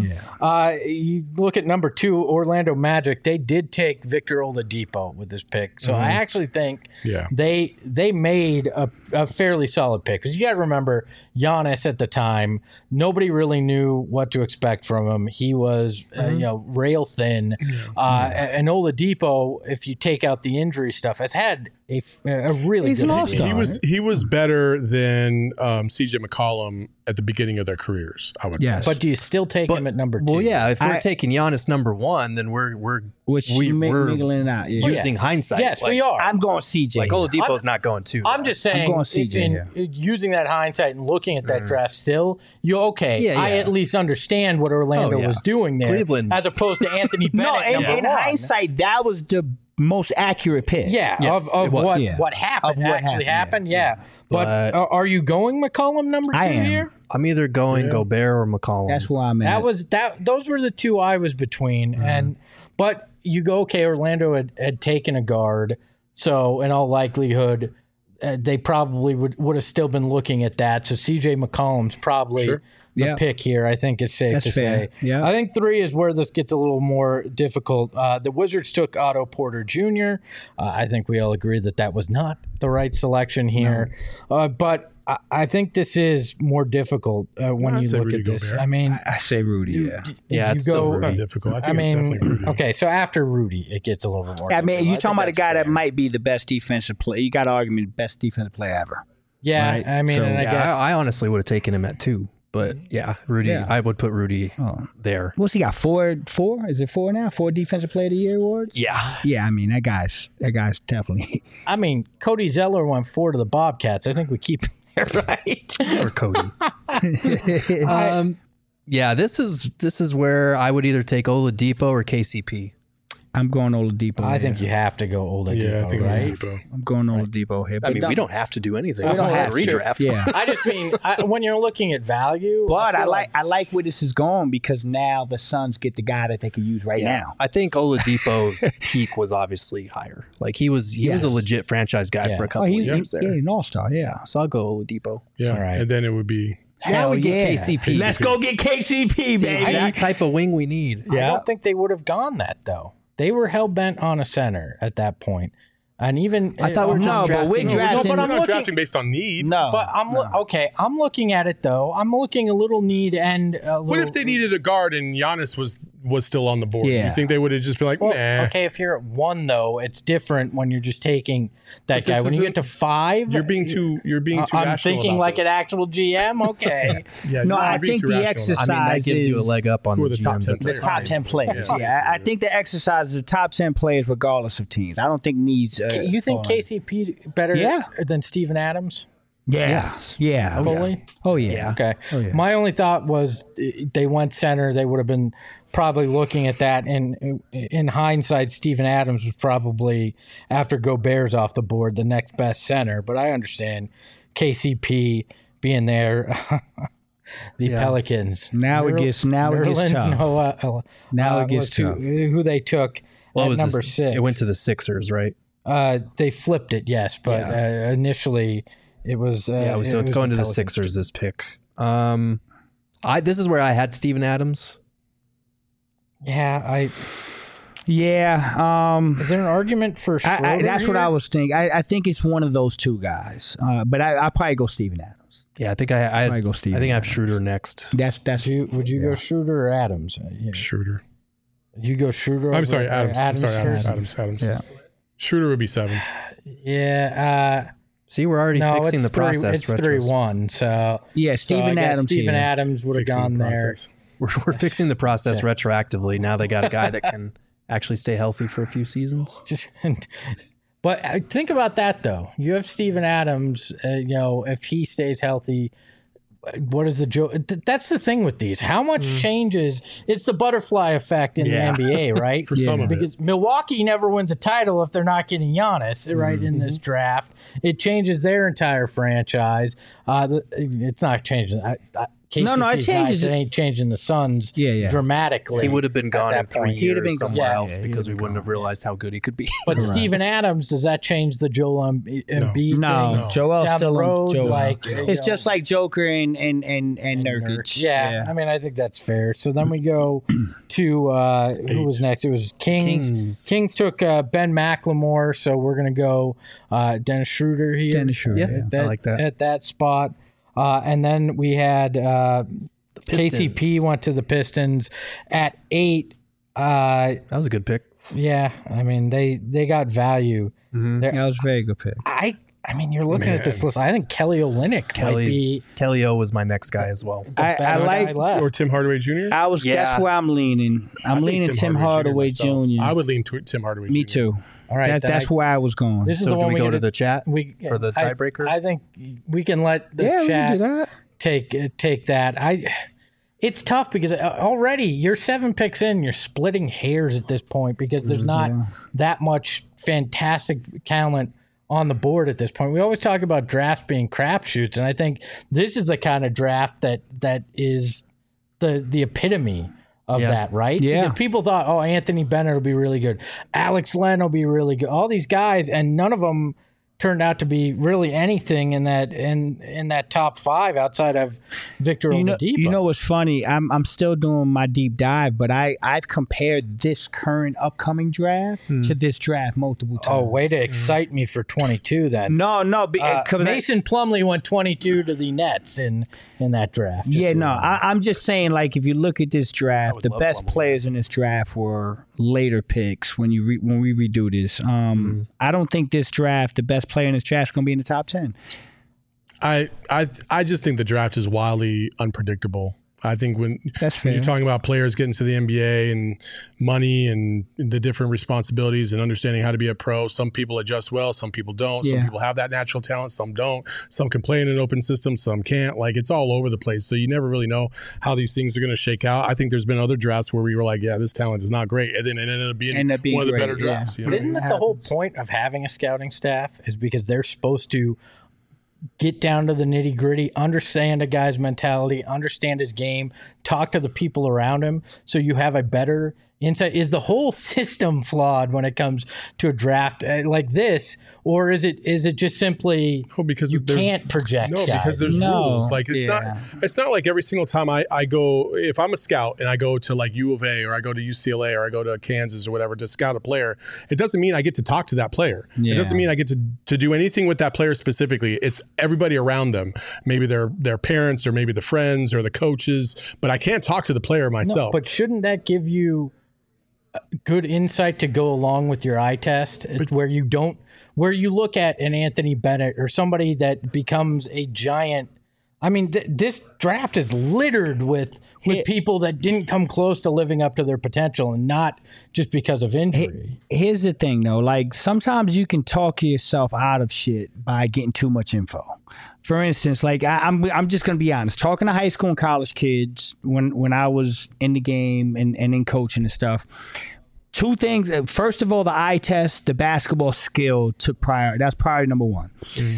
S1: you look at number 2, Orlando Magic. They did take Victor Oladipo with this pick. So I actually think they made a fairly solid pick. Because you got to remember, Giannis at the time, nobody really knew what to expect from him. He was rail thin. And Oladipo, if you take out the injury stuff, has had a really
S3: He's
S1: good
S3: an all-star.
S2: He was better than CJ McCollum at the beginning of their careers, I would say.
S1: But do you still take him at number 2?
S4: Well, yeah. If we're taking Giannis number one, then we're
S3: mingling it out. Yeah.
S4: using hindsight.
S1: Yes,
S4: like,
S1: we are.
S3: I'm going CJ.
S4: Like Oladipo's not going two.
S1: I'm just saying,
S3: going CJ,
S1: using that hindsight and looking at that draft still,
S4: Yeah,
S1: I
S4: yeah.
S1: at least understand what Orlando was doing there.
S4: Cleveland.
S1: As opposed to Anthony Bennett.
S3: No, in
S1: number 1.
S3: hindsight, that was the most accurate pick.
S1: Yeah,
S4: Yes,
S1: of
S4: it was.
S1: what,
S3: Yeah.
S1: what happened
S3: Of what
S1: actually
S3: happened,
S1: happened. Yeah. But are you going McCollum number 2
S3: I am.
S1: here?
S4: I'm either going Gobert or McCollum.
S3: That's where I'm at.
S1: Those were the two I was between. But you go, okay, Orlando had taken a guard. So in all likelihood, they probably would have still been looking at that. So CJ McCollum's probably the pick here, I think is safe to say.
S3: Yeah.
S1: I think 3 is where this gets a little more difficult. The Wizards took Otto Porter Jr. I think we all agree that was not the right selection here. No. But I think this is more difficult when you look at this.
S2: Gobert.
S1: I mean,
S3: I say Rudy.
S2: It's not difficult. I mean, it's definitely Rudy.
S1: Okay, so after Rudy, it gets a little bit more.
S3: I mean, you're talking about a guy
S1: fair.
S3: that might be the best defensive player. You got to argue the best defensive player ever.
S1: Yeah,
S3: right?
S1: I mean,
S3: So-
S1: and I guess
S4: I honestly would have taken him at 2, but Rudy.
S3: Yeah.
S4: I would put Rudy there.
S3: What's he got? 4? Is it 4 now? 4 Defensive Player of the Year awards?
S4: Yeah,
S3: Yeah, I mean that guy's definitely.
S1: I mean, Cody Zeller went 4 to the Bobcats. I think we keep him there, right?
S4: or Cody. This is where I would either take Oladipo or KCP.
S3: I'm going Oladipo.
S1: I
S3: here.
S1: think you have to go Oladipo,
S2: Yeah, I think
S1: right?
S2: Oladipo.
S3: I'm going Oladipo here.
S4: I mean, we don't have to do anything.
S1: We don't have to.
S4: redraft.
S3: Yeah.
S1: I just mean when you're looking at value.
S3: But I
S1: feel
S3: like where this is going because now the Suns get the guy that they can use right now.
S4: I think Oladipo's peak was obviously higher. Like he was a legit franchise guy for a couple of years there.
S3: Yeah, an all-star, yeah.
S4: So I'll go Oladipo.
S2: Yeah,
S1: All right.
S2: and then it would be
S4: Now we
S3: Hell
S4: get
S3: yeah.
S4: KCP.
S3: Let's go get KCP, baby.
S4: Exact type of wing we need.
S1: I don't think they would have gone that though. They were hell bent on a center at that point. And even
S4: I thought we were just
S3: No, but we're
S4: drafting.
S3: drafting.
S1: but
S2: we're
S1: I'm
S2: not
S1: looking-
S2: drafting based on need.
S3: No.
S1: But I'm looking at it though. I'm looking a little need and a
S2: What if they needed a guard and Giannis was still on the board?
S3: Yeah.
S2: You think they would have just been like, nah.
S1: Okay, if you're at 1 though, it's different when you're just taking that
S2: But
S1: guy.
S2: this
S1: When you
S2: isn't-
S1: get to 5,
S2: You're being too
S1: I'm
S2: rational
S1: thinking
S2: about
S1: like
S2: this.
S1: an actual GM. Okay.
S2: Yeah,
S3: No,
S2: you're
S3: I
S2: being
S3: think
S2: too
S3: the
S2: rational.
S3: exercise
S4: I mean, that gives you a
S3: is-
S4: leg up on
S2: Who are
S4: the
S2: the top
S4: GMs
S2: 10
S4: at the
S3: The
S2: players?
S3: top
S4: time.
S3: 10 players.
S2: Yeah,
S3: Yeah, I think the exercise is the top 10 players regardless of teams. I don't think needs.
S1: You think KCP better than Steven Adams?
S3: Yeah.
S4: Yes.
S3: Yeah.
S1: Fully?
S3: Oh, yeah.
S1: Okay.
S3: Oh, yeah.
S1: My only thought was they went center. They would have been probably looking at that. And in hindsight, Steven Adams was probably, after Gobert's off the board, the next best center. But I understand KCP being there. The Pelicans.
S3: Now it gets
S1: Nerlens
S3: tough.
S1: Noah,
S3: Now it gets tough.
S1: who they took at number 6.
S4: It went to the Sixers, right?
S1: They flipped it, yes, but initially it was.
S4: So it's
S1: was
S4: going to the
S1: Pelicans.
S4: Sixers. This pick. This is where I had Steven Adams.
S1: Yeah,
S3: Yeah.
S1: is there an argument for Schroeder
S3: That's what
S1: here?
S3: I was thinking. I think it's one of those two guys. But I'll probably go Steven Adams.
S4: Yeah, I think I
S3: Probably go Steven
S4: I think I have
S3: Adams.
S4: Schroeder next.
S3: That's
S1: Would you go Schroeder or Adams?
S2: Schroeder.
S1: You go Schroeder.
S2: I'm
S1: over
S2: sorry, Adams. I'm sorry,
S1: first?
S2: Adams.
S3: Yeah.
S2: Schroeder would be 7.
S1: Yeah.
S4: See, we're already
S1: No,
S4: fixing
S1: it's
S4: the process.
S1: It's 3-1. So
S3: Yeah,
S1: so I
S3: Steven
S1: guess
S3: Adams.
S1: Steven
S3: here.
S1: Adams would have
S2: Fixing
S1: gone
S2: the
S1: there.
S2: process.
S4: We're fixing the process retroactively. Now they got a guy that can actually stay healthy for a few seasons.
S1: But think about that though. You have Steven Adams. If he stays healthy, what is the joke? That's the thing with these. How much changes? It's the butterfly effect in the NBA, right?
S2: For some of it.
S1: Because Milwaukee never wins a title if they're not getting Giannis, right? In this draft, it changes their entire franchise. It's not changing.
S3: No, it changes.
S1: It ain't changing the Suns dramatically.
S4: He would have been gone in 3
S3: He'd have been
S4: years
S3: gone.
S4: somewhere
S3: Yeah,
S4: else
S3: he
S4: because we
S3: would've
S4: wouldn't have realized how good he could be.
S1: But Steven Adams, does that change the Joel Embiid
S3: No,
S1: thing?
S3: Joel's
S1: Down
S3: still
S1: the road,
S3: on Joel.
S1: like,
S3: It's just like Joker and Nurkic.
S1: Yeah, I mean, I think that's fair. So then we go to who was next? It was Kings. Kings took Ben McLemore, so we're gonna go Dennis Schroeder here.
S3: Dennis Schroeder,
S4: I like that.
S1: At that spot, and then we had KCP went to the Pistons at 8.
S4: That was a good pick.
S1: Yeah, I mean they got value.
S3: That was a very good pick.
S1: I mean, you're looking at this list. I think Kelly Olynyk might be
S4: Kelly O was my next guy as well.
S1: the best guy left.
S2: Or Tim Hardaway Jr.?
S3: That's where I'm leaning. I'm leaning Tim Hardaway Jr.
S2: I would lean Tim Hardaway Jr.
S3: Me too.
S1: All right,
S3: That's where I was going.
S1: This is
S4: So
S1: the
S4: do
S1: one
S4: we go
S1: get
S4: to the chat for the tiebreaker?
S1: I think we can let the
S3: we can
S1: chat
S3: do that.
S1: take that. It's tough because already you're 7 picks in, you're splitting hairs at this point because there's not that much fantastic talent on the board at this point. We always talk about drafts being crapshoots, and I think this is the kind of draft that is the epitome of that, right?
S3: Yeah.
S1: Because people thought, Anthony Bennett will be really good. Alex Len will be really good. All these guys, and none of them turned out to be really anything in that top 5 outside of Victor Oladipo.
S3: You know what's funny? I'm still doing my deep dive, but I've compared this current upcoming draft to this draft multiple times.
S1: Oh, way to excite me for 22 then.
S3: No.
S1: Mason Plumlee went 22 to the Nets in that draft.
S3: Yeah, no. I'm just saying, like, if you look at this draft, the best players in this draft were later picks when we redo this. I don't think this draft, the best player in this draft is going to be in the top 10.
S2: I just think the draft is wildly unpredictable. I think when you're talking about players getting to the NBA and money and the different responsibilities and understanding how to be a pro, some people adjust well, some people don't. Some people have that natural talent, some don't. Some can play in an open system, some can't. Like, it's all over the place. So you never really know how these things are going to shake out. I think there's been other drafts where we were like, yeah, this talent is not great. And then it ended up being one of the better drafts.
S1: But isn't that the whole point of having a scouting staff, is because they're supposed to get down to the nitty gritty, understand a guy's mentality, understand his game, talk to the people around him, so you have a better insight? Is the whole system flawed when it comes to a draft like this, or is it just simply
S2: because
S1: you can't project?
S2: No,
S1: guys?
S2: because there's rules. Like, it's not like every single time I go, if I'm a scout and I go to like U of A or I go to UCLA or I go to Kansas or whatever to scout a player, it doesn't mean I get to talk to that player. It doesn't mean I get to do anything with that player specifically. It's everybody around them, maybe their parents or maybe the friends or the coaches, but I can't talk to the player myself.
S1: No, but shouldn't that give you good insight to go along with your eye test, where you look at an Anthony Bennett or somebody that becomes a giant? I mean, this draft is littered with people that didn't come close to living up to their potential, and not just because of injury.
S3: Here's the thing, though. Like, sometimes you can talk yourself out of shit by getting too much info. For instance, like, I'm just going to be honest. Talking to high school and college kids when I was in the game and in coaching and stuff, two things. First of all, the eye test, the basketball skill took priority. That's priority number one.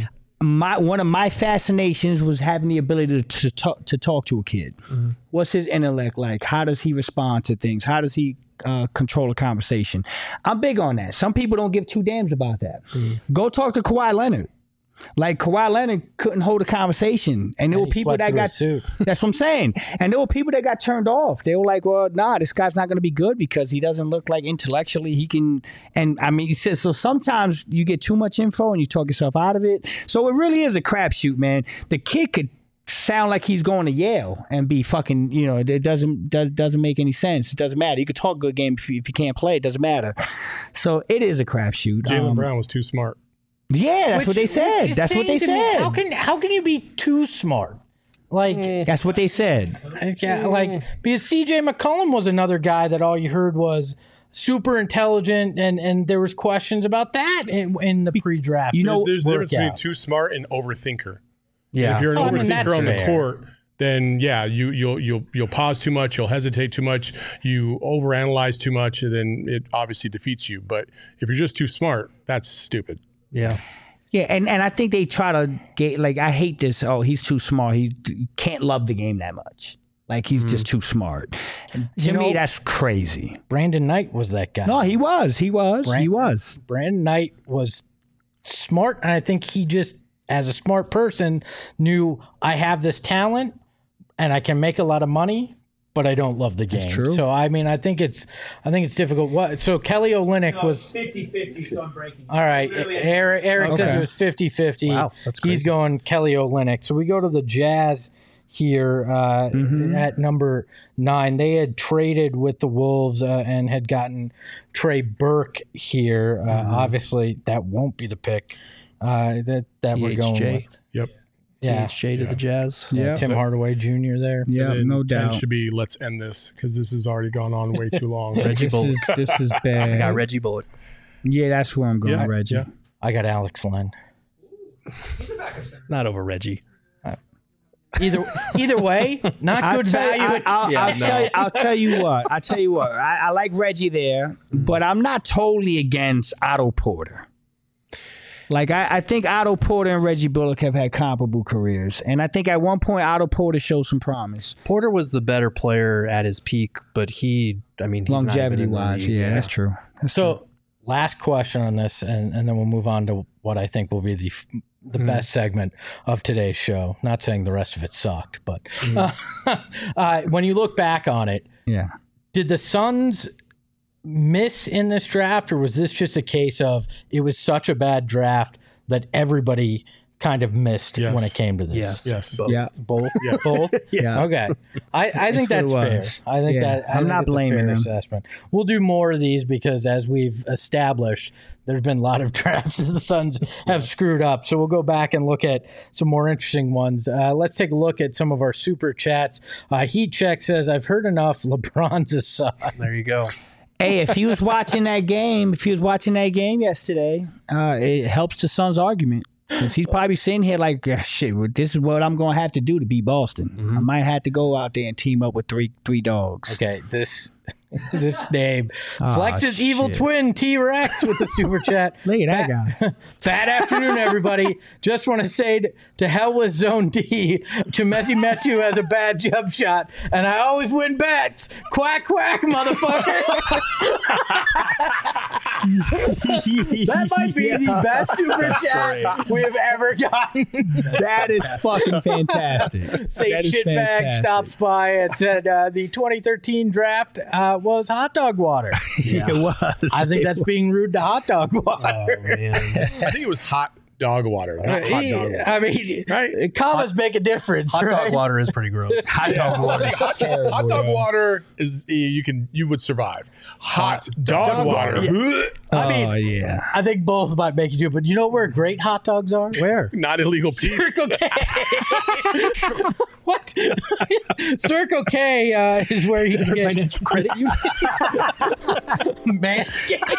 S3: One of my fascinations was having the ability to talk to a kid. What's his intellect like? How does he respond to things? How does he control a conversation? I'm big on that. Some people don't give two damns about that. Go talk to Kawhi Leonard. Like, Kawhi Leonard couldn't hold a conversation, and there were people that got. That's what I'm saying. And there were people that got turned off. They were like, "Well, nah, this guy's not going to be good because he doesn't look like intellectually he can." And I mean, so sometimes you get too much info and you talk yourself out of it. So it really is a crapshoot, man. The kid could sound like he's going to Yale and be fucking, it doesn't make any sense. It doesn't matter. You could talk a good game if you can't play. It doesn't matter. So it is a crapshoot.
S2: Jaylen Brown was too smart.
S3: Yeah, that's what they said. That's what they said.
S1: How can you be too smart? Like,
S3: that's what they said.
S1: Like, because CJ McCollum was another guy that all you heard was super intelligent, and there was questions about that in the pre-draft.
S2: There's a difference between too smart and overthinker.
S4: Yeah,
S2: if you're an overthinker on the court, then you'll pause too much, you'll hesitate too much, you overanalyze too much, and then it obviously defeats you. But if you're just too smart, that's stupid.
S3: Yeah, and I think they try to get, like, I hate this. Oh, he's too smart. He can't love the game that much. Like, he's just too smart. And to me, that's crazy.
S1: Brandon Knight was that guy.
S3: No, he was.
S1: Brandon Knight was smart, and I think he just, as a smart person, knew, I have this talent and I can make a lot of money, but I don't love the game. That's true. So I mean, I think it's difficult. So Kelly Olynyk was
S5: 50-50, so I'm breaking.
S1: All right, Eric says it was 50-50.
S4: Wow, that's crazy.
S1: He's going Kelly Olynyk. So we go to the Jazz here at number 9. They had traded with the Wolves and had gotten Trey Burke here. Obviously, that won't be the pick that we're going with.
S2: Yep.
S4: THJ to the Jazz.
S1: Yeah, Tim Hardaway Jr. there.
S3: Yeah, no doubt.
S2: 10 should be, let's end this, because this has already gone on way too long.
S4: Reggie Bullock.
S3: This is bad.
S4: I got Reggie Bullock.
S3: Yeah, that's where I'm going, Reggie. Yeah.
S1: I got Alex Len.
S5: He's a backup center.
S4: Not over Reggie.
S1: Either way, not good value.
S3: I'll tell you what. I like Reggie there, but I'm not totally against Otto Porter. Like, I think Otto Porter and Reggie Bullock have had comparable careers. And I think at one point, Otto Porter showed some promise.
S4: Porter was the better player at his peak, but he's
S3: longevity-wise, yeah, that's true.
S1: last question on this, and then we'll move on to what I think will be the best segment of today's show. Not saying the rest of it sucked, but when you look back on it, did the Suns miss in this draft, or was this just a case of it was such a bad draft that everybody kind of missed when it came to this?
S2: Yes.
S1: Both.
S2: Yeah.
S1: Both?
S2: Yes.
S1: Both?
S3: Yes.
S1: Okay. I think that's fair. I think
S3: I'm not blaming them.
S1: Assessment. We'll do more of these because, as we've established, there's been a lot of drafts that the Suns have screwed up. So we'll go back and look at some more interesting ones. Let's take a look at some of our super chats. Heat Check says, I've heard enough. LeBron's a son.
S4: There you go.
S3: Hey, if he was watching that game yesterday, it helps the Suns' argument. Because he's probably sitting here like, shit, this is what I'm going to have to do to beat Boston. I might have to go out there and team up with three dogs.
S1: Okay, this name. Flex's evil twin, T-Rex, with the super chat.
S3: Look at that guy.
S1: Bad afternoon, everybody. Just want to say to hell with Zone D. Chemezi Metu has a bad jump shot, and I always win bets. Quack, quack, motherfucker. That might be the best super chat we have ever gotten.
S3: That is fucking fantastic.
S1: St. Shitbag stops by and said the 2013 draft was hot dog water.
S3: It was.
S1: I think that's being rude to hot dog water.
S4: Oh, man.
S2: I think it was hot dog water, not hot dog water.
S1: I mean,
S2: right?
S1: Commas make a difference.
S4: Hot
S1: right?
S4: dog water is pretty gross.
S3: Hot dog water.
S2: Hot dog water is you would survive. Hot dog water.
S1: I mean, I think both might make you do it, but you know where great hot dogs are? Where?
S2: Not illegal pizza.
S1: Circle K. What? Circle K is where you get
S3: Financial credit union.
S1: Manscaped.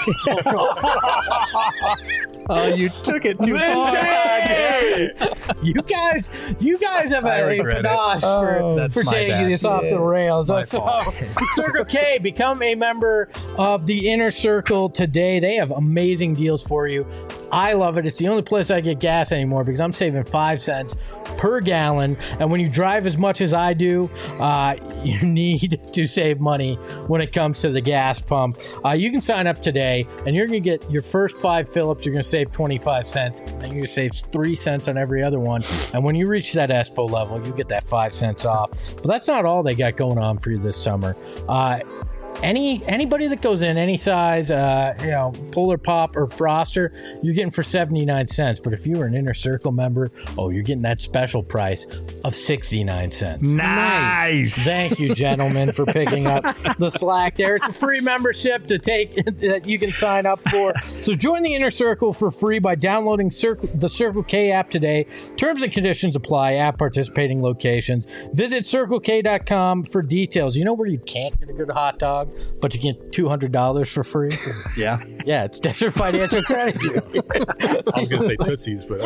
S4: Oh, you took it too far.
S1: You guys have a panache for taking this off the rails. So, Circle K, become a member of the Inner Circle today. They have amazing deals for you. I love it. It's the only place I get gas anymore because I'm saving 5 cents per gallon. And when you drive as much as I do, you need to save money when it comes to the gas pump. You can sign up today, and you're going to get your first 5 fill-ups. You're going to save 25 cents, and you're going to save 3 cents on every other one. And when you reach that ESPO level, you get that 5 cents off. But that's not all they got going on for you this summer. Anybody that goes in any size, Polar Pop or Froster, you're getting for 79 cents. But if you were an Inner Circle member, you're getting that special price of 69 cents.
S3: Nice.
S1: Thank you, gentlemen, for picking up the slack there. It's a free membership to take that you can sign up for. So join the Inner Circle for free by downloading the Circle K app today. Terms and conditions apply at participating locations. Visit CircleK.com for details. You know where you can't get a good hot dog, but you get $200 for free?
S4: Yeah.
S1: Yeah, it's Desert Financial Credit.
S2: I was going to say Tootsies, but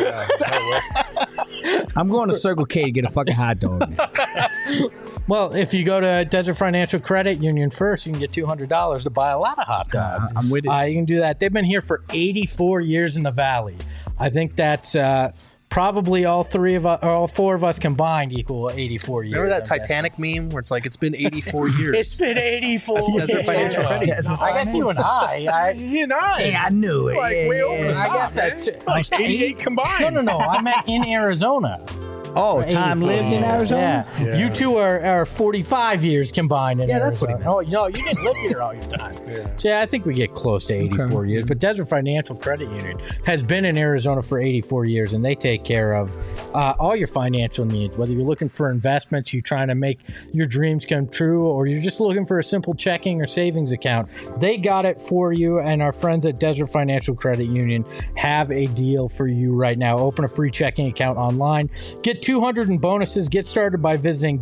S3: I'm going to Circle K to get a fucking hot dog.
S1: Well, if you go to Desert Financial Credit Union first, you can get $200 to buy a lot of hot dogs.
S3: I'm with it.
S1: You can do that. They've been here for 84 years in the Valley. I think that's probably all 4 of us combined equal 84 years.
S4: Remember that Titanic meme where it's like, it's been 84 years.
S1: It's been 84 years.
S4: Desert Financial Credit.
S1: I guess you and I.
S2: he and I.
S3: Yeah, I knew it.
S2: Like way over the top.
S1: I guess that's
S2: like 88 combined.
S1: No. I meant in Arizona.
S3: Oh, time lived in Arizona?
S1: Yeah. You two are 45 years combined in Arizona.
S3: That's what he meant.
S1: Oh, no, you didn't live here all your time. So, I think we get close to 84 years. But Desert Financial Credit Union has been in Arizona for 84 years, and they take care of all your financial needs. Whether you're looking for investments, you're trying to make your dreams come true, or you're just looking for a simple checking or savings account, they got it for you. And our friends at Desert Financial Credit Union have a deal for you right now. Open a free checking account online. Get $200 in bonuses. Get started by visiting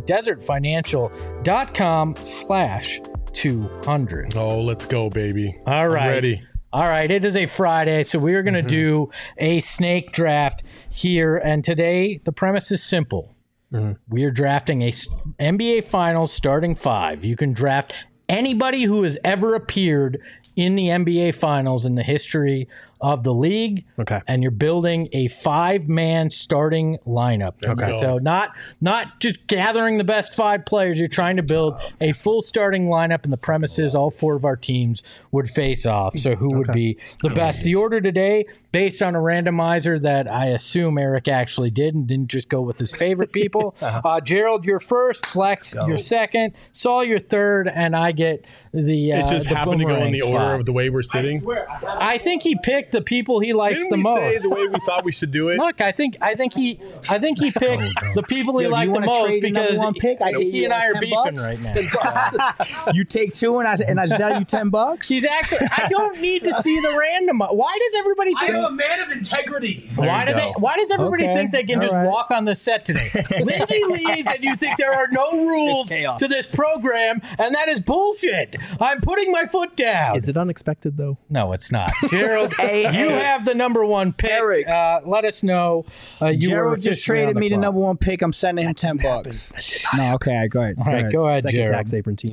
S1: desertfinancial.com/200.
S2: Oh, let's go, baby.
S1: All right.
S2: I'm ready.
S1: All right. It is a Friday, so we are going to do a snake draft here. And today, the premise is simple. We are drafting a NBA Finals starting 5. You can draft anybody who has ever appeared in the NBA Finals in the history of the league.
S4: Okay.
S1: And you're building a 5-man starting lineup.
S2: Okay.
S1: So not just gathering the best 5 players. You're trying to build a full starting lineup, and the premise is all 4 of our teams would face off. So who would be the best? The order today, based on a randomizer that I assume Eric actually did and didn't just go with his favorite people. Gerald, you're first. Flex, you're second. Saul, you're third. And I get the
S2: It just
S1: the
S2: happened to go in the
S1: spot.
S2: order of the way we're sitting.
S1: I think he picked the people he likes
S2: Didn't
S1: the
S2: we
S1: most.
S2: say the way we thought we should do it?
S1: Look, I think he picked the people he liked the most because he and I are beefing right now.
S3: You take 2 and I sell you $10.
S1: He's actually. I don't need to see the random. Why does everybody think?
S5: I'm a man of integrity.
S1: Why does everybody think they can just walk on the set today? Lindsay leaves, and you think there are no rules to this program, and that is bullshit. I'm putting my foot down.
S4: Is it unexpected though?
S1: No, it's not. Gerald, you have the number 1 pick.
S3: Eric.
S1: Let us know.
S3: Gerald just traded me the number 1 pick. I'm sending him $10. No, okay, go ahead.
S1: All right, go ahead,
S4: Second
S1: Gerald.
S4: tax apron team.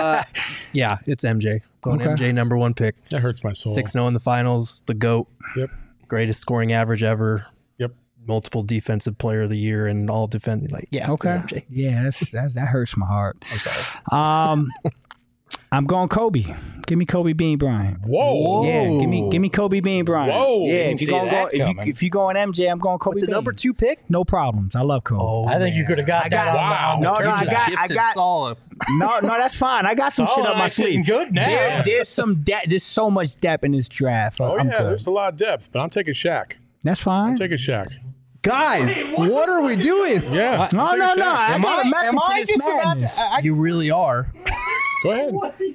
S4: Yeah, it's MJ. Going MJ, number 1 pick.
S2: That hurts my soul.
S4: 6-0 in the finals. The GOAT.
S2: Yep.
S4: Greatest scoring average ever.
S2: Yep.
S4: Multiple defensive player of the year and all defending.
S3: Okay.
S4: It's MJ.
S3: Yeah, that hurts my heart.
S4: I'm sorry.
S3: I'm going Kobe. Give me Kobe Bean Bryant.
S2: Whoa.
S3: Yeah, give me Kobe Bean Bryant.
S2: Whoa.
S3: Yeah,
S1: Didn't see that coming.
S3: if you going MJ, I'm going Kobe
S4: The
S3: Bean.
S4: number 2 pick?
S3: No problems. I love Kobe.
S1: I think you could have got that.
S2: Wow.
S3: No, I got.
S4: Saul
S3: No, that's fine. I got some shit up my sleeve.
S1: Good now.
S3: There's some depth. There's so much depth in this draft.
S2: Oh,
S3: I'm
S2: yeah,
S3: good.
S2: there's a lot of depth, but I'm taking Shaq.
S3: That's fine.
S2: Taking Shaq.
S4: Guys, what are we doing?
S2: Yeah.
S3: No. I got a method to this madness.
S4: You really are.
S2: Go ahead.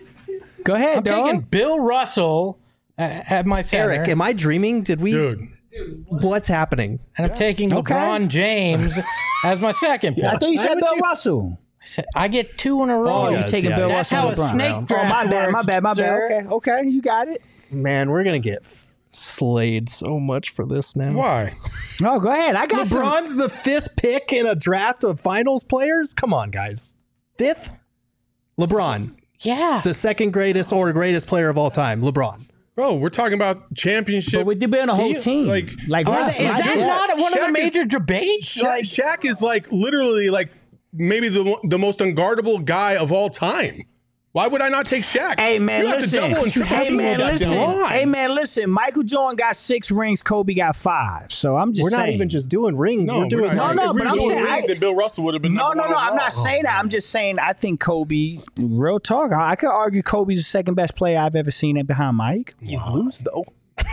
S3: Go ahead,
S1: I'm
S3: dog.
S1: taking Bill Russell at my center.
S4: Eric, am I dreaming? Did we?
S2: Dude.
S4: What's happening?
S1: And I'm taking LeBron James as my second pick.
S3: I thought you said Bill Russell.
S1: I get 2 in a row.
S3: Oh, you're taking Bill
S1: That's
S3: Russell.
S1: how a
S3: and LeBron.
S1: snake draft
S3: my bad.
S1: works,
S3: Okay, you got it.
S4: Man, we're going to get slayed so much for this now.
S2: Why?
S3: No, go ahead. I got some.
S4: LeBron's the 5th pick in a draft of finals players? Come on, guys. 5th? LeBron,
S1: Yeah.
S4: the 2nd greatest or greatest player of all time. LeBron.
S2: Bro, we're talking about championship.
S3: But we're debating a whole team.
S2: like-
S1: Is that not one of the major debates?
S2: Shaq is like literally like maybe the most unguardable guy of all time. Why would I not take Shaq?
S3: Hey man,
S2: you have
S3: listen.
S2: to double and triple
S3: Hey
S2: team
S3: man,
S2: that
S3: listen.
S2: guy.
S3: Hey man, listen. Michael Jordan got 6 rings. Kobe got 5. So I'm just
S4: We're
S3: saying.
S4: not even just doing rings.
S2: No,
S4: we're doing
S2: not.
S3: No,
S2: If we
S3: but
S2: were
S3: I'm
S2: doing
S3: saying
S2: rings, then Bill Russell would have been
S3: No.
S2: number 1
S3: I'm
S2: overall.
S3: not saying that. I'm just saying I think Kobe. Real talk. I could argue Kobe's the 2nd best player I've ever seen it behind Mike.
S4: You'd lose though.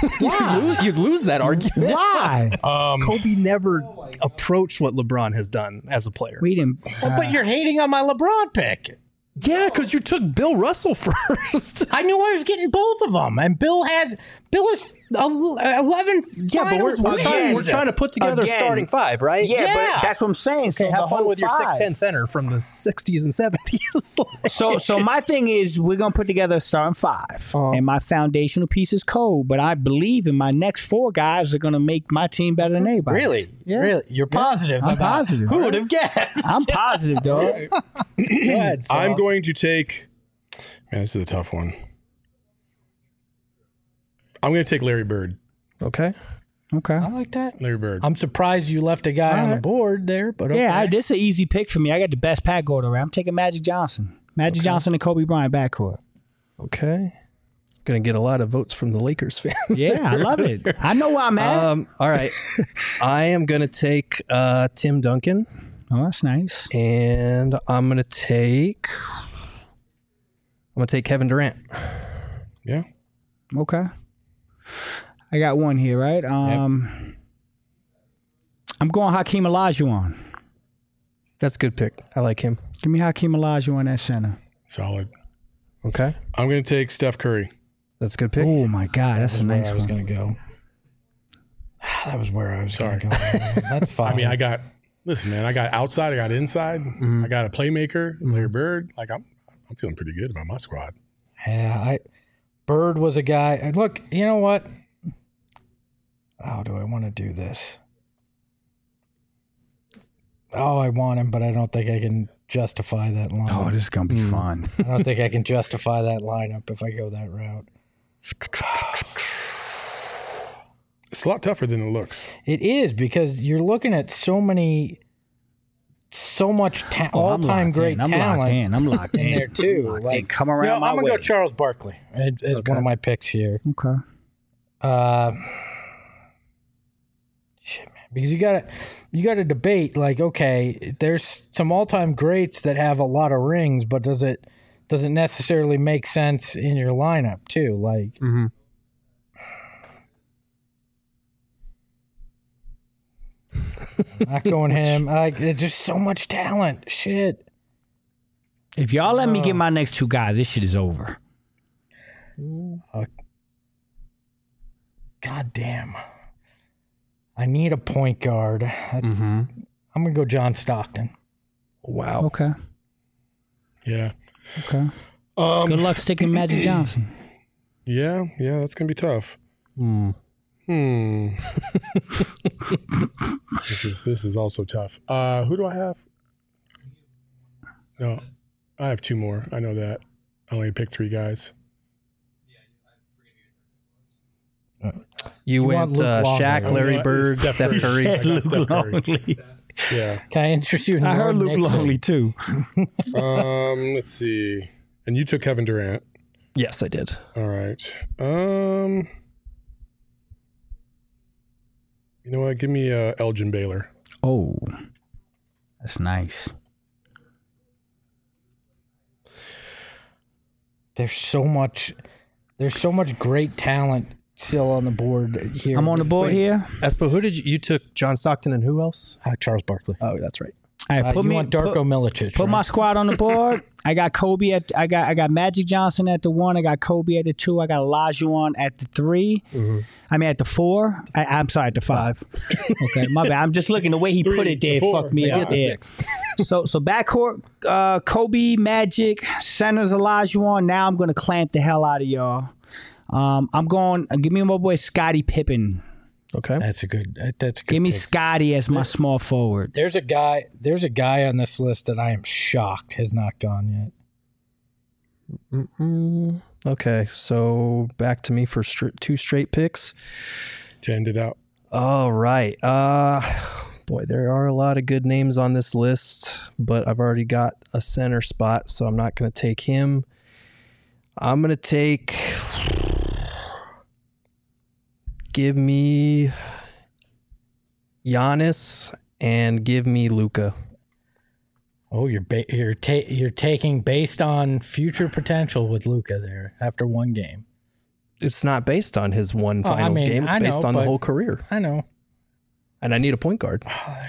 S4: You'd lose that argument.
S3: Why?
S4: Kobe never approached what LeBron has done as a player.
S3: We didn't.
S1: But you're hating on my LeBron pick.
S4: Yeah, because you took Bill Russell first.
S1: I knew I was getting both of them, and Bill is 11.
S4: Yeah, but we're
S1: wins.
S4: trying to put together
S3: Again.
S4: a starting 5, right?
S3: Yeah, but that's what I'm saying.
S4: Okay,
S3: so
S4: have
S3: the
S4: fun
S3: whole
S4: with your
S3: 5.
S4: 6'10" center from the 60s and 70s.
S3: So my thing is we're gonna put together a starting 5, and my foundational piece is Cole. But I believe in my next 4 guys are gonna make my team better than anybody.
S1: Really?
S3: Yeah.
S1: Really? You're positive.
S3: I'm
S1: about-
S3: positive.
S1: Who would have guessed?
S3: I'm positive, dog.
S1: Go ahead, Saul.
S2: I'm going to take. Man, this is a tough one. I'm going to take Larry Bird.
S4: Okay.
S3: Okay.
S1: I like that.
S2: Larry Bird.
S1: I'm surprised you left a guy on the board there, but okay.
S3: Yeah, this is an easy pick for me. I got the best pack going around. I'm taking Magic Johnson. Magic Johnson and Kobe Bryant backcourt.
S4: Okay. Going to get a lot of votes from the Lakers fans.
S3: Yeah, I love it. I know where I'm at.
S4: All right. I am going to take Tim Duncan,
S3: Oh, that's nice.
S4: and I'm going to take Kevin Durant.
S2: Yeah.
S3: Okay. I got one here, right? I'm going Hakeem Olajuwon.
S4: That's a good pick. I like him.
S3: Give me Hakeem Olajuwon at center.
S2: Solid.
S4: Okay.
S2: I'm going to take Steph Curry.
S4: That's a good pick.
S3: Oh my God, that's a nice
S1: I was
S3: one.
S1: going to go. That was where I was
S2: Sorry.
S1: going to go. That's fine.
S2: I mean, I got outside, I got inside, I got a playmaker, Larry Bird. Like I'm feeling pretty good about my squad.
S1: Yeah, Bird was a guy. Look, you know what? How do I want to do this? Oh, I want him, but I don't think I can justify that line.
S3: Oh, this is gonna be fun.
S1: I don't think I can justify that lineup if I go that route.
S2: It's a lot tougher than it looks.
S1: It is, because you're looking at so much all-time great talent.
S3: I'm locked in
S1: there too.
S3: Come around my way.
S1: I'm gonna go Charles Barkley as one of my picks here.
S3: Okay.
S1: Shit, man, because you got to debate, like, okay, there's some all-time greats that have a lot of rings, but does it necessarily make sense in your lineup too? Like, not going him. Like, there's just so much talent. Shit.
S3: If y'all let me get my next two guys, this shit is over.
S1: God damn. I need a point guard. I'm gonna go John Stockton.
S4: Wow.
S3: Okay.
S2: Yeah.
S3: Okay. Good luck sticking Magic Johnson.
S2: Yeah, that's gonna be tough. This is also tough. Who do I have? No, I have two more. I know that. I only picked 3 guys.
S4: You went Shaq, Larry Bird, Steph Curry.
S2: Steph Curry. Yeah.
S1: Can I interest you in
S3: I heard Luke Longley too.
S2: Let's see. And you took Kevin Durant.
S4: Yes, I did.
S2: All right. You know what? Give me Elgin Baylor.
S3: Oh, that's nice.
S1: There's so much great talent still on the board here.
S3: I'm on the board here.
S4: Espo, who did you took? John Stockton and who else?
S1: Charles Barkley.
S4: Oh, that's right.
S3: All right,
S1: You want Darko Milicic.
S3: Put my squad on the board. I got Kobe I got Magic Johnson at the 1. I got Kobe at the 2. I got Olajuwon at the 3. I mean at the 4. I'm sorry, at the 5. Okay, my bad. I'm just looking the way he put it there. Fucked me up. Yeah. So backcourt, Kobe, Magic, centers Olajuwon. Now I'm gonna clamp the hell out of y'all. I'm going. Give me my boy Scottie Pippen.
S4: Okay,
S1: that's a good.
S3: Give me
S1: pick.
S3: Scottie as my small forward.
S1: There's a guy on this list that I am shocked has not gone yet.
S4: Okay, so back to me for 2 straight picks
S2: to end it out.
S4: All right. Boy, there are a lot of good names on this list, but I've already got a center spot, so I'm not going to take him. I'm going to take. Give me Giannis and give me Luka.
S1: Oh, you're taking based on future potential with Luka there after one game.
S4: It's not based on his one finals game. It's based on the whole career.
S1: I know.
S4: And I need a point guard.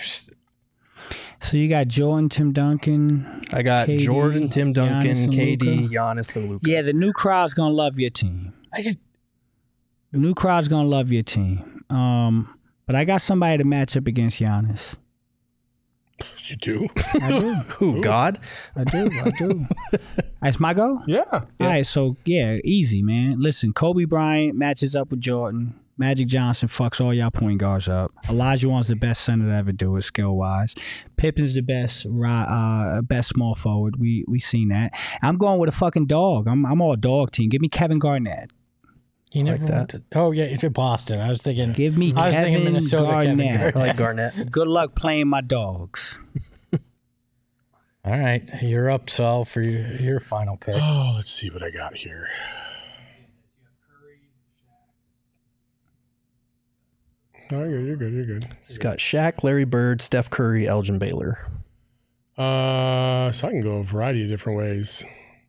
S3: So you got Jordan, Tim Duncan.
S4: I got
S3: KD,
S4: Jordan, Tim Duncan, KD,
S3: Luka.
S4: Giannis, and Luka.
S3: Yeah, the new crowd's gonna love your team. The new crowd's gonna love your team. But I got somebody to match up against Giannis.
S2: You do?
S3: I do.
S4: Who? God?
S3: I do. That's my go?
S2: Yeah.
S3: All right, so yeah, easy, man. Listen, Kobe Bryant matches up with Jordan. Magic Johnson fucks all y'all point guards up. Olajuwon's the best center to ever do it, skill-wise. Pippen's the best small forward. We seen that. I'm going with a fucking dog. I'm all dog team. Give me Kevin Garnett.
S1: You never went to. Oh yeah, it's in Boston. I was thinking.
S3: Give me Kevin
S1: Minnesota.
S3: Garnett.
S4: I like Garnett.
S3: Good luck playing my dogs.
S1: All right, you're up, Saul, for your final pick.
S2: Oh, let's see what I got here. Oh, you're good.
S4: He's got Shaq, Larry Bird, Steph Curry, Elgin Baylor.
S2: So I can go a variety of different ways.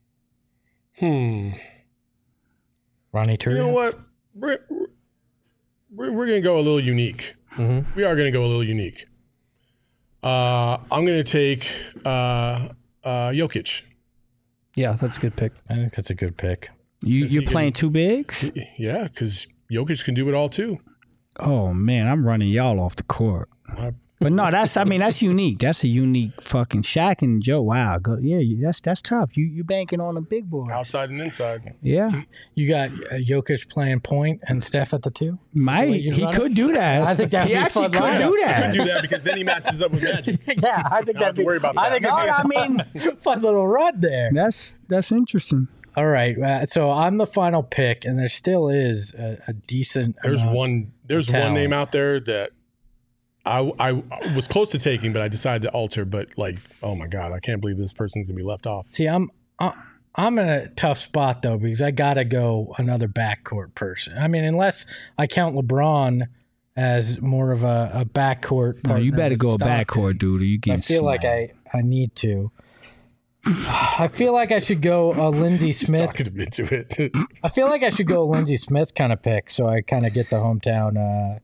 S1: Ronnie Turner.
S2: You know what? We're going to go a little unique.
S4: Mm-hmm.
S2: We are going to go a little unique. I'm going to take Jokic.
S4: Yeah, that's a good pick.
S1: I think that's a good pick.
S3: You're playing two bigs?
S2: Yeah, because Jokic can do it all too.
S3: Oh man, I'm running y'all off the court. But no, that's unique. That's a unique fucking Shaq and Joe. Wow, that's tough. You banking on a big boy.
S2: Outside and inside.
S3: Yeah.
S1: You got Jokic playing point and Steph at the 2?
S3: He could do that.
S1: I think that
S3: he actually could do that.
S2: He could do that because then he matches up with Magic.
S1: Yeah, I think that'd be.
S2: Worry about that.
S1: I think fun little run there.
S3: That's interesting.
S1: All right. So I'm the final pick, and there still is a decent.
S2: There's one name out there that I was close to taking, but I decided to alter. But like, oh my God, I can't believe this person's gonna be left off.
S1: See, I'm in a tough spot though, because I gotta go another backcourt person. I mean, unless I count LeBron as more of a backcourt partner.
S3: No, you better go a
S1: Stockton.
S3: Backcourt, dude. Or you get.
S1: I feel like I need to. I feel like I should go a Lindsey Smith.
S2: Talking him into it.
S1: I feel like I should go a Lindsey Smith kind of pick, so I kind of get the hometown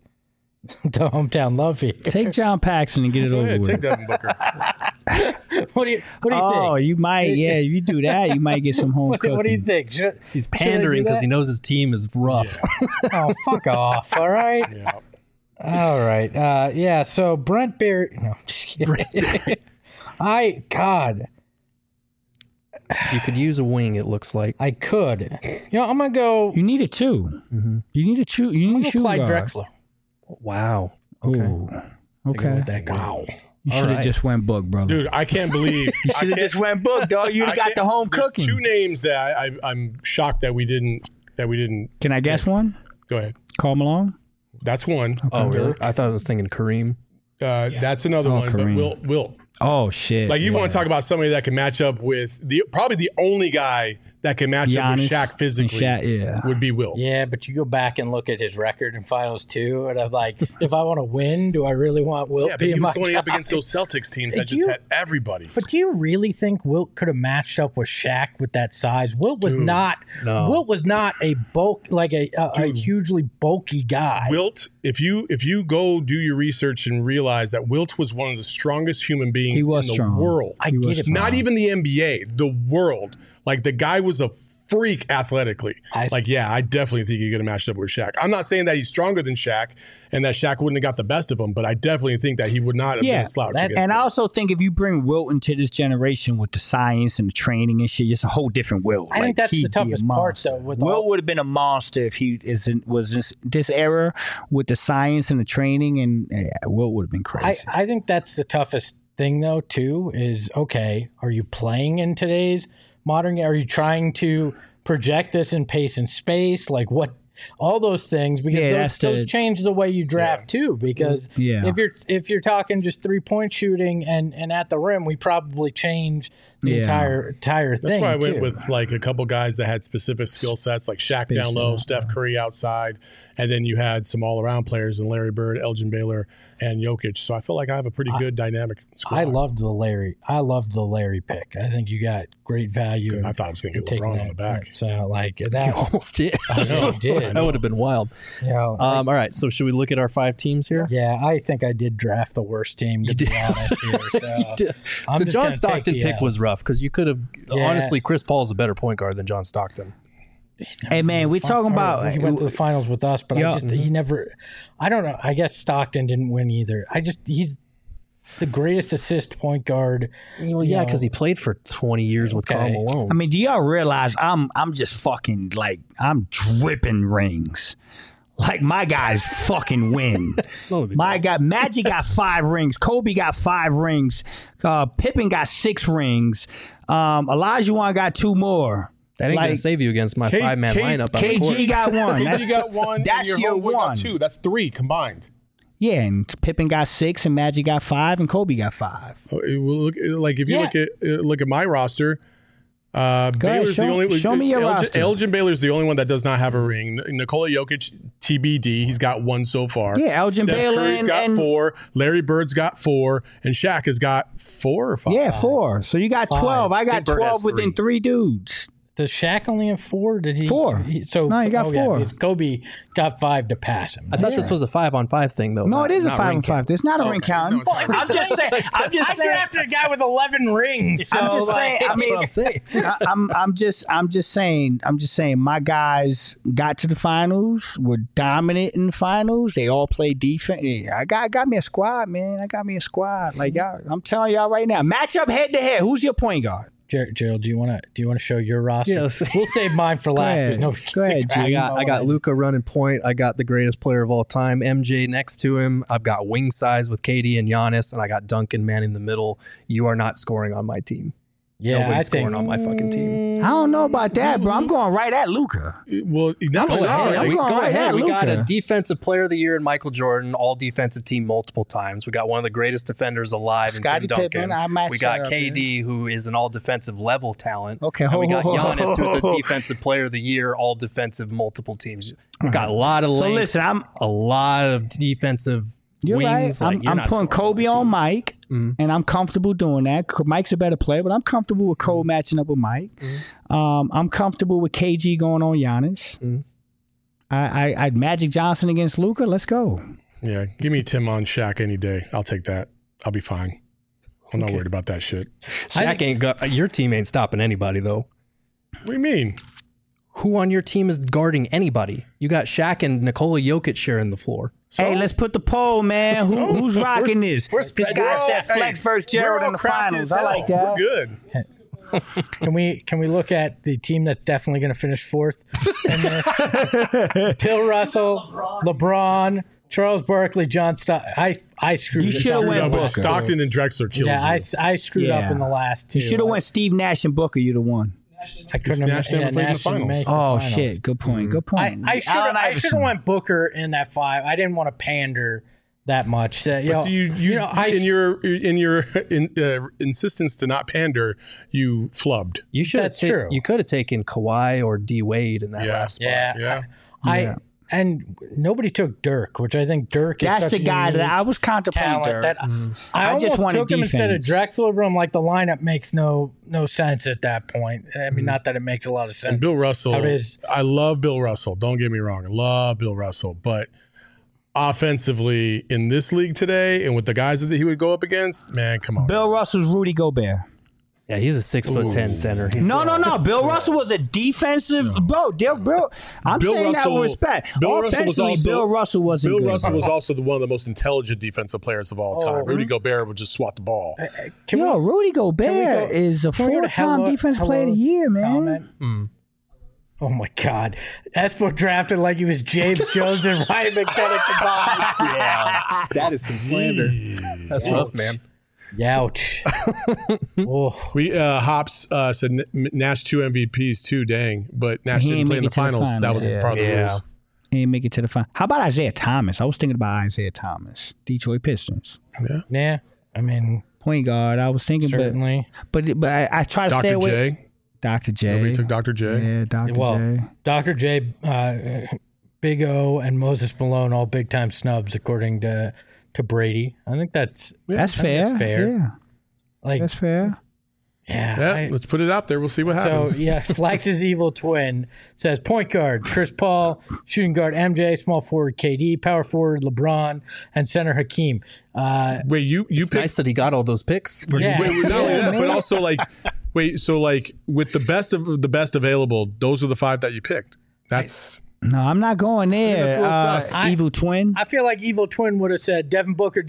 S1: love here.
S3: Take John Paxson and get it over with.
S2: Take Devin Booker.
S1: What do you think?
S3: Oh, you might. Yeah, if you do that, you might get some home cooking.
S1: What do you think?
S4: He's pandering because he knows his team is rough.
S1: Yeah. Oh, fuck off! All right.
S2: Yeah.
S1: All right. Yeah. So Brent Berry. No, just kidding. God.
S4: You could use a wing, it looks like.
S1: I could. I'm gonna go.
S3: You need it too.
S4: Mm-hmm.
S3: You need a two. You need a shoe
S1: Clyde
S3: guard.
S1: Drexler.
S4: Wow.
S3: Okay.
S4: Ooh.
S3: Okay.
S2: Wow.
S3: You should have just went book, brother.
S2: Dude, I can't believe
S3: You should have just went book, dog. You'd have got the home
S2: there's
S3: cooking.
S2: two names that I'm shocked that we didn't.
S3: Can I guess one?
S2: Go ahead.
S3: Karl Malone.
S2: That's one.
S4: Oh, really? I thought I was thinking Kareem.
S2: That's another one.
S3: Kareem.
S2: But Wilt.
S3: Oh shit!
S2: Like you want to talk about somebody that can match up with probably the only guy that can match up with Shaq physically would be Wilt.
S1: Yeah, but you go back and look at his record in finals too, and I'm like, if I want to win, do I really want Wilt?
S2: Yeah, but he was going up against those Celtics teams that just had everybody.
S1: But do you really think Wilt could have matched up with Shaq with that size? Wilt was not.
S4: No.
S1: Wilt was not a a hugely bulky guy.
S2: Wilt, if you go do your research and realize that Wilt was one of the strongest human beings in the world.
S1: I get it.
S2: Not even the NBA, the world. Like the guy was a freak athletically. I definitely think he could have matched up with Shaq. I'm not saying that he's stronger than Shaq and that Shaq wouldn't have got the best of him, but I definitely think that he would not have been a slouch against him.
S3: I also think if you bring Wilt into this generation with the science and the training and shit, it's a whole different Wilt.
S1: I think that's the toughest part, though.
S3: Wilt would have been a monster if he was this era with the science and the training, and Wilt would have been crazy.
S1: I think that's the toughest thing, though, too, is, okay, are you playing in today's modern game? Are you trying to project this in pace and space? Like what? All those things, because those change the way you draft too. Because if you're talking just 3-point shooting and at the rim, we probably change the entire thing.
S2: That's why I went with like a couple guys that had specific skill sets, like Shaq down low, Steph Curry outside, and then you had some all-around players in Larry Bird, Elgin Baylor, and Jokic. So I feel like I have a pretty good dynamic squad.
S1: I loved the Larry pick. I think you got great value.
S2: I thought I was going to get LeBron on the back.
S1: So like that,
S4: you almost did.
S1: I know you did.
S4: That would have been wild.
S1: Yeah.
S4: All right. So should we look at our 5 teams here?
S1: Yeah, I think I did draft the worst team. To be honest here. So
S4: the John Stockton pick was rough because you could have honestly. Chris Paul is a better point guard than John Stockton.
S3: Hey man, we're talking about.
S1: He went to the finals with us, but he never. I don't know. I guess Stockton didn't win either. He's the greatest assist point guard.
S4: Well, yeah, because he played for 20 years with Karl Malone.
S3: I mean, do y'all realize I'm just fucking like I'm dripping rings. Like my guys fucking win. Magic got 5 rings. Kobe got 5 rings. Pippen got 6 rings. Olajuwon got 2 more.
S4: That ain't going to save you against my 5-man lineup.
S3: KG got 1.
S2: KG got 1.
S3: That's your 1.
S2: Got 2. That's 3 combined.
S3: Yeah, and Pippen got 6, and Magic got 5, and Kobe got 5.
S2: If you look at my roster, Baylor's the only.
S3: Show me your roster.
S2: Elgin Baylor's the only one that does not have a ring. Nikola Jokic, TBD, he's got 1 so far.
S3: Yeah, Elgin Baylor
S2: Curry's got 4. Larry Bird's got 4, and Shaq has got 4 or 5.
S3: Yeah, 4. So you got 12. I got 12 within 3 dudes.
S1: Does Shaq only have 4? Did he?
S3: 4.
S1: He got
S3: 4.
S1: Yeah, Kobe got 5 to pass him.
S4: I thought this was a 5-on-5 thing, though.
S3: No, it is a 5-on-5. There's not a ring counting.
S2: No,
S3: I'm just saying.
S1: I drafted a guy with 11 rings. So
S3: I'm just saying. I mean,
S4: what I'm saying.
S3: I'm just saying. My guys got to the finals. Were dominant in the finals. They all played defense. Yeah, I got me a squad, man. I got me a squad. Like y'all, I'm telling y'all right now. Match up head to head. Who's your point guard?
S1: Gerald, do you want to show your roster?
S4: Yes.
S1: We'll save mine for last.
S3: Go ahead,
S4: I got Luka running point. I got the greatest player of all time, MJ, next to him. I've got wing size with KD and Giannis, and I got Duncan manning the middle. You are not scoring on my team.
S1: Yeah,
S4: Nobody's scoring on my fucking team.
S3: I don't know about that, bro. I'm going right at Luka.
S2: Well, not
S3: Go ahead.
S4: We got
S3: Luka.
S4: a defensive player of the year in Michael Jordan, all defensive team multiple times. We got one of the greatest defenders alive in Tim Duncan.
S3: Pippen,
S4: we got KD, who is an all defensive level talent.
S3: Okay,
S4: and we got Giannis, who's a defensive player of the year, all defensive multiple teams. We got a lot of length.
S3: So listen,
S4: a lot of defensive
S3: You're
S4: wings.
S3: right. I'm putting Kobe on Mike, and I'm comfortable doing that. Mike's a better player, but I'm comfortable with Kobe matching up with Mike. I'm comfortable with KG going on Giannis. I'd Magic Johnson against Luka. Let's go.
S2: Yeah, give me Tim on Shaq any day. I'll take that. I'll be fine. I'm not worried about that shit.
S4: Shaq ain't got your team ain't stopping anybody though.
S2: What do you mean?
S4: Who on your team is guarding anybody? You got Shaq and Nikola Jokic sharing the floor.
S2: So,
S3: hey, let's put the poll, man. Who's rocking this? This guy said Flex versus Gerald in the finals. I like that.
S2: We're good.
S1: Can we look at the team that's definitely going to finish fourth in this? Bill Russell, LeBron, Charles Barkley, John Stockton. I screwed.
S3: You should have went Booker.
S2: Stockton and Drexler killed you.
S1: I screwed up in the last two.
S3: You should have went Steve Nash and Booker. You'd have won.
S1: I couldn't have
S2: played in the finals.
S3: Oh shit! Good point. Good point.
S1: I should have went Booker in that 5. I didn't want to pander that much. In your insistence to not pander, you flubbed.
S4: You should.
S1: That's true.
S4: You could have taken Kawhi or D Wade in that last spot.
S1: Yeah. And nobody took Dirk, which I think Dirk is
S3: that's
S1: such
S3: the guy that I was contemplating. Dirk.
S1: That I almost
S3: just wanted
S1: took him
S3: defense.
S1: instead of Drexler, but I'm like, the lineup makes no sense at that point. I mean, not that it makes a lot of sense.
S2: And Bill Russell, I love Bill Russell. Don't get me wrong. I love Bill Russell. But offensively, in this league today, and with the guys that he would go up against, man, come on.
S3: Bill Russell's Rudy Gobert.
S4: Yeah, he's a 6'10" center.
S3: No. Bill Russell was a defensive bro. I'm saying that with respect. Bill Russell was
S2: also one of the most intelligent defensive players of all time. Rudy Gobert would just swat the ball.
S3: Rudy Gobert is a 4-time defensive player of the year, man.
S1: Oh my God. Espo drafted like he was James Jones and Ryan McKenna combined.
S4: Yeah. That is some slander. That's rough, man.
S1: Youch.
S2: We Hops said Nash 2 MVPs too. Dang, but Nash didn't play in the finals. That was part of the rules.
S3: He didn't make it to the final. How about Isaiah Thomas? I was thinking about Isaiah Thomas, Detroit Pistons.
S1: Yeah. I mean,
S3: point guard. I was thinking,
S1: certainly.
S3: But I try to stay away. Dr. J.
S2: Nobody took Dr. J.
S3: Yeah, J.
S1: Dr. J, Big O, and Moses Malone, all big time snubs according to Brady. I think that's fair.
S3: Yeah. That's fair.
S1: Yeah.
S2: Let's put it out there. We'll see what happens.
S1: So, Flex's evil twin says point guard, Chris Paul, shooting guard, MJ, small forward, KD, power forward, LeBron, and center Hakeem.
S2: Wait, you
S4: picked... nice that he got all those picks.
S2: Yeah. Not only that, but also with the best available, those are the 5 that you picked. That's...
S3: No, I'm not going there. Evil Twin.
S1: I feel like Evil Twin would have said Devin Booker.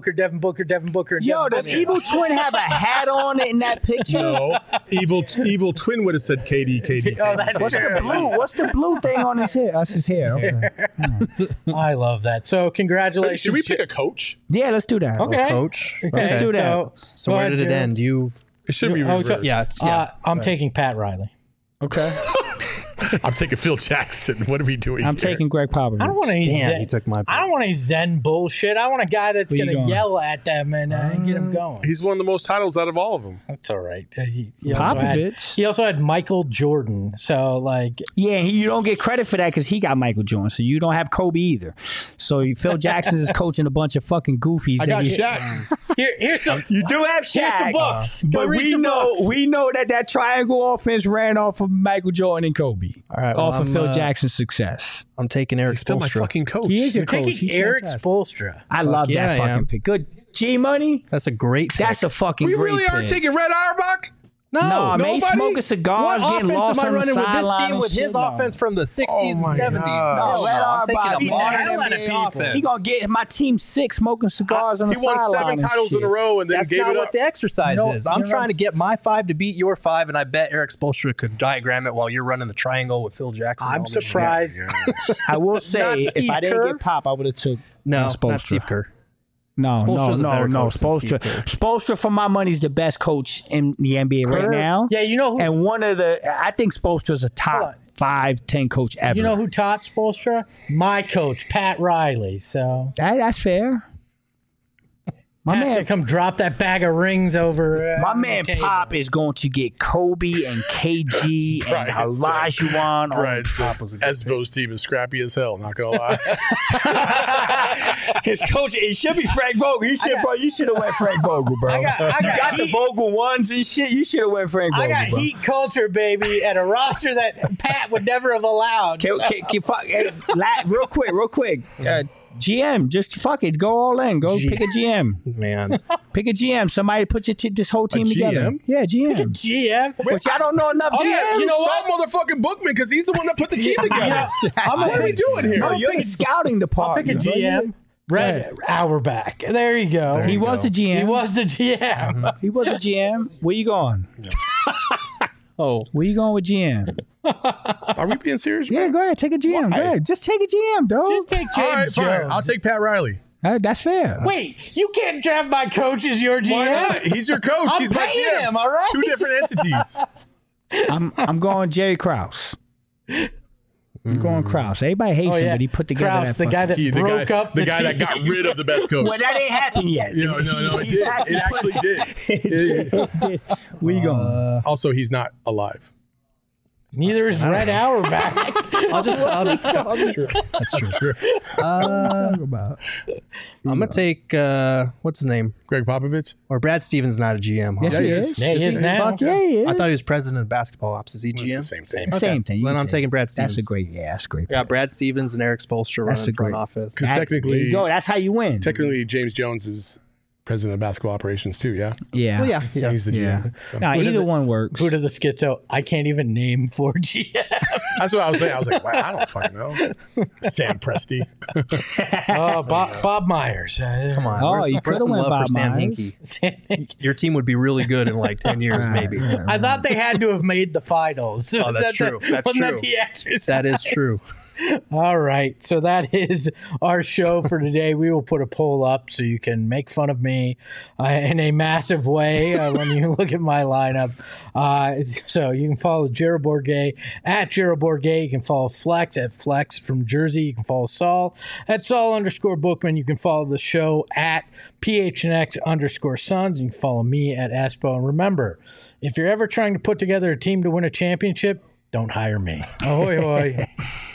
S3: Yo, does Evil Twin have a hat on in that picture?
S2: No. Evil Twin would have said KD.
S1: Oh, that's
S3: What's the blue thing on his hair? That's his hair. Okay.
S1: I love that. So congratulations.
S2: Should we pick a coach?
S3: Yeah, let's do that.
S1: Okay.
S4: Coach.
S1: Okay.
S3: Let's do that.
S4: So where did it end?
S2: It should be reversed.
S1: I'm taking Pat Riley.
S3: Okay.
S2: I'm taking Phil Jackson. What are we doing?
S3: I'm taking Greg Popovich.
S1: I don't want any
S4: Zen. He took my pick.
S1: I don't want any Zen bullshit. I want a guy that's going to yell at them and get them going.
S2: He's won the most titles out of all of them.
S1: That's all right.
S3: Popovich.
S1: He also had Michael Jordan. So
S3: you don't get credit for that because he got Michael Jordan. So you don't have Kobe either. So Phil Jackson is coaching a bunch of fucking goofies.
S2: I got Shaq.
S1: Here's some.
S3: You do have Shaq.
S1: Here's some books.
S3: But we know that triangle offense ran off of Michael Jordan and Kobe.
S4: All right.
S3: Off of Phil Jackson's success.
S4: I'm taking Eric Spoelstra.
S2: Still my fucking coach.
S3: He is your
S1: You're
S3: coach.
S1: taking Eric Spoelstra.
S3: I love that fucking pick. Good G Money.
S4: That's a great pick.
S3: That's a fucking
S2: great
S3: pick.
S2: We really are taking Red Auerbach?
S3: No, man, he's smoking cigars, getting lost on the sideline.
S4: What offense am I running with this team with his offense from the 60s and 70s?
S3: No,
S4: I'm taking a modern NBA offense.
S3: He gonna get my team 6 smoking cigars on the sideline.
S2: He won 7 titles in a row and then
S4: That's
S2: gave it up.
S4: That's not what the exercise is. I'm trying to get my 5 to beat your 5, and I bet Eric Spoelstra could diagram it while you're running the triangle with Phil Jackson.
S1: I'm surprised.
S3: I will say, if I didn't get Pop, I would have took
S4: not
S3: Spoelstra.
S4: Steve Kerr.
S3: No. Spoelstra, for my money, is the best coach in the NBA right now.
S1: Yeah, you know who?
S3: And I think Spoelstra's a top 5-10 coach ever.
S1: You know who taught Spoelstra? My coach, Pat Riley. So
S3: that's fair.
S1: Pat's gonna come drop that bag of rings over.
S3: My man Pop is going to get Kobe and KG and Olajuwon.
S2: Espo's team is scrappy as hell. Not gonna lie.
S3: His coach, it should be Frank Vogel. You should have went Frank Vogel, bro. You got the Vogel ones and shit. You should have went Frank Vogel.
S1: I got heat culture, baby, and a roster that Pat would never have allowed.
S3: Real quick. GM, just fuck it. Go all in. Go pick a GM.
S4: Man.
S3: Pick a GM. Somebody put this whole team together. Yeah, GM.
S1: Pick a GM.
S3: Which I don't know enough GMs.
S2: You know what? Motherfucking Bookman, because he's the one that put the team together. What are we doing here?
S3: No, you're the scouting department.
S1: I'll pick a GM. Red Auerbach. There you go.
S3: He was the GM.
S1: He was the GM.
S3: He was the GM. Where you going? Where you going with GM?
S2: Are we being serious?
S3: Yeah, go ahead. Take a GM. Go ahead. Just take a GM, dog.
S1: Just take James Jones.
S2: Fine. I'll take Pat Riley.
S3: That's fair.
S1: Wait, you can't draft my coach as your GM?
S2: Why not? He's your coach. He's my GM.
S1: Him, all right?
S2: 2 different entities.
S3: I'm going Jerry Krause. I'm going Krause. Everybody hates him, but he put together
S1: Krause, the guy that broke up
S2: the guy that got rid of the best coach.
S3: Well, that ain't happened yet.
S2: No, it did. It actually did.
S3: It did. Where you going?
S2: Also, he's not alive.
S1: Neither is Red Auerbach.
S4: That's true. I'm gonna take what's his name?
S2: Greg Popovich?
S4: Or Brad Stevens not a GM.
S3: Yes, he is.
S1: Yeah, he is now.
S3: Fuck yeah, he is.
S4: I thought he was president of basketball ops. Is he GM?
S2: It's the same thing.
S3: Same thing.
S4: Then I'm taking Brad Stevens.
S3: That's great.
S4: Yeah, Brad Stevens and Eric Spoelstra running front office.
S2: Because technically,
S3: there you go. That's how you win.
S2: Technically, James Jones is president of basketball operations too. Yeah.
S3: Yeah.
S4: Well, yeah.
S2: He's the GM. So.
S3: No, either one works.
S1: Who to the schizo? I can't even name 4 GM.
S2: That's what I was saying. I was like, wow, I don't fucking know. Sam Presti.
S1: Bob Myers.
S4: Come on.
S3: Oh, you could have went Bob Myers.
S4: Your team would be really good in like 10 years, maybe.
S1: I thought they had to have made the finals.
S4: Oh, that's true. That's true.
S1: That the exercise?
S4: That is true.
S1: All right. So that is our show for today. We will put a poll up so you can make fun of me in a massive way when you look at my lineup. So you can follow Jared Bourget at Jared Bourget. You can follow Flex at Flex from Jersey. You can follow Saul at Saul_Bookman. You can follow the show at PHNX_Suns. You can follow me at Espo. And remember, if you're ever trying to put together a team to win a championship, don't hire me. Ahoy, hoy.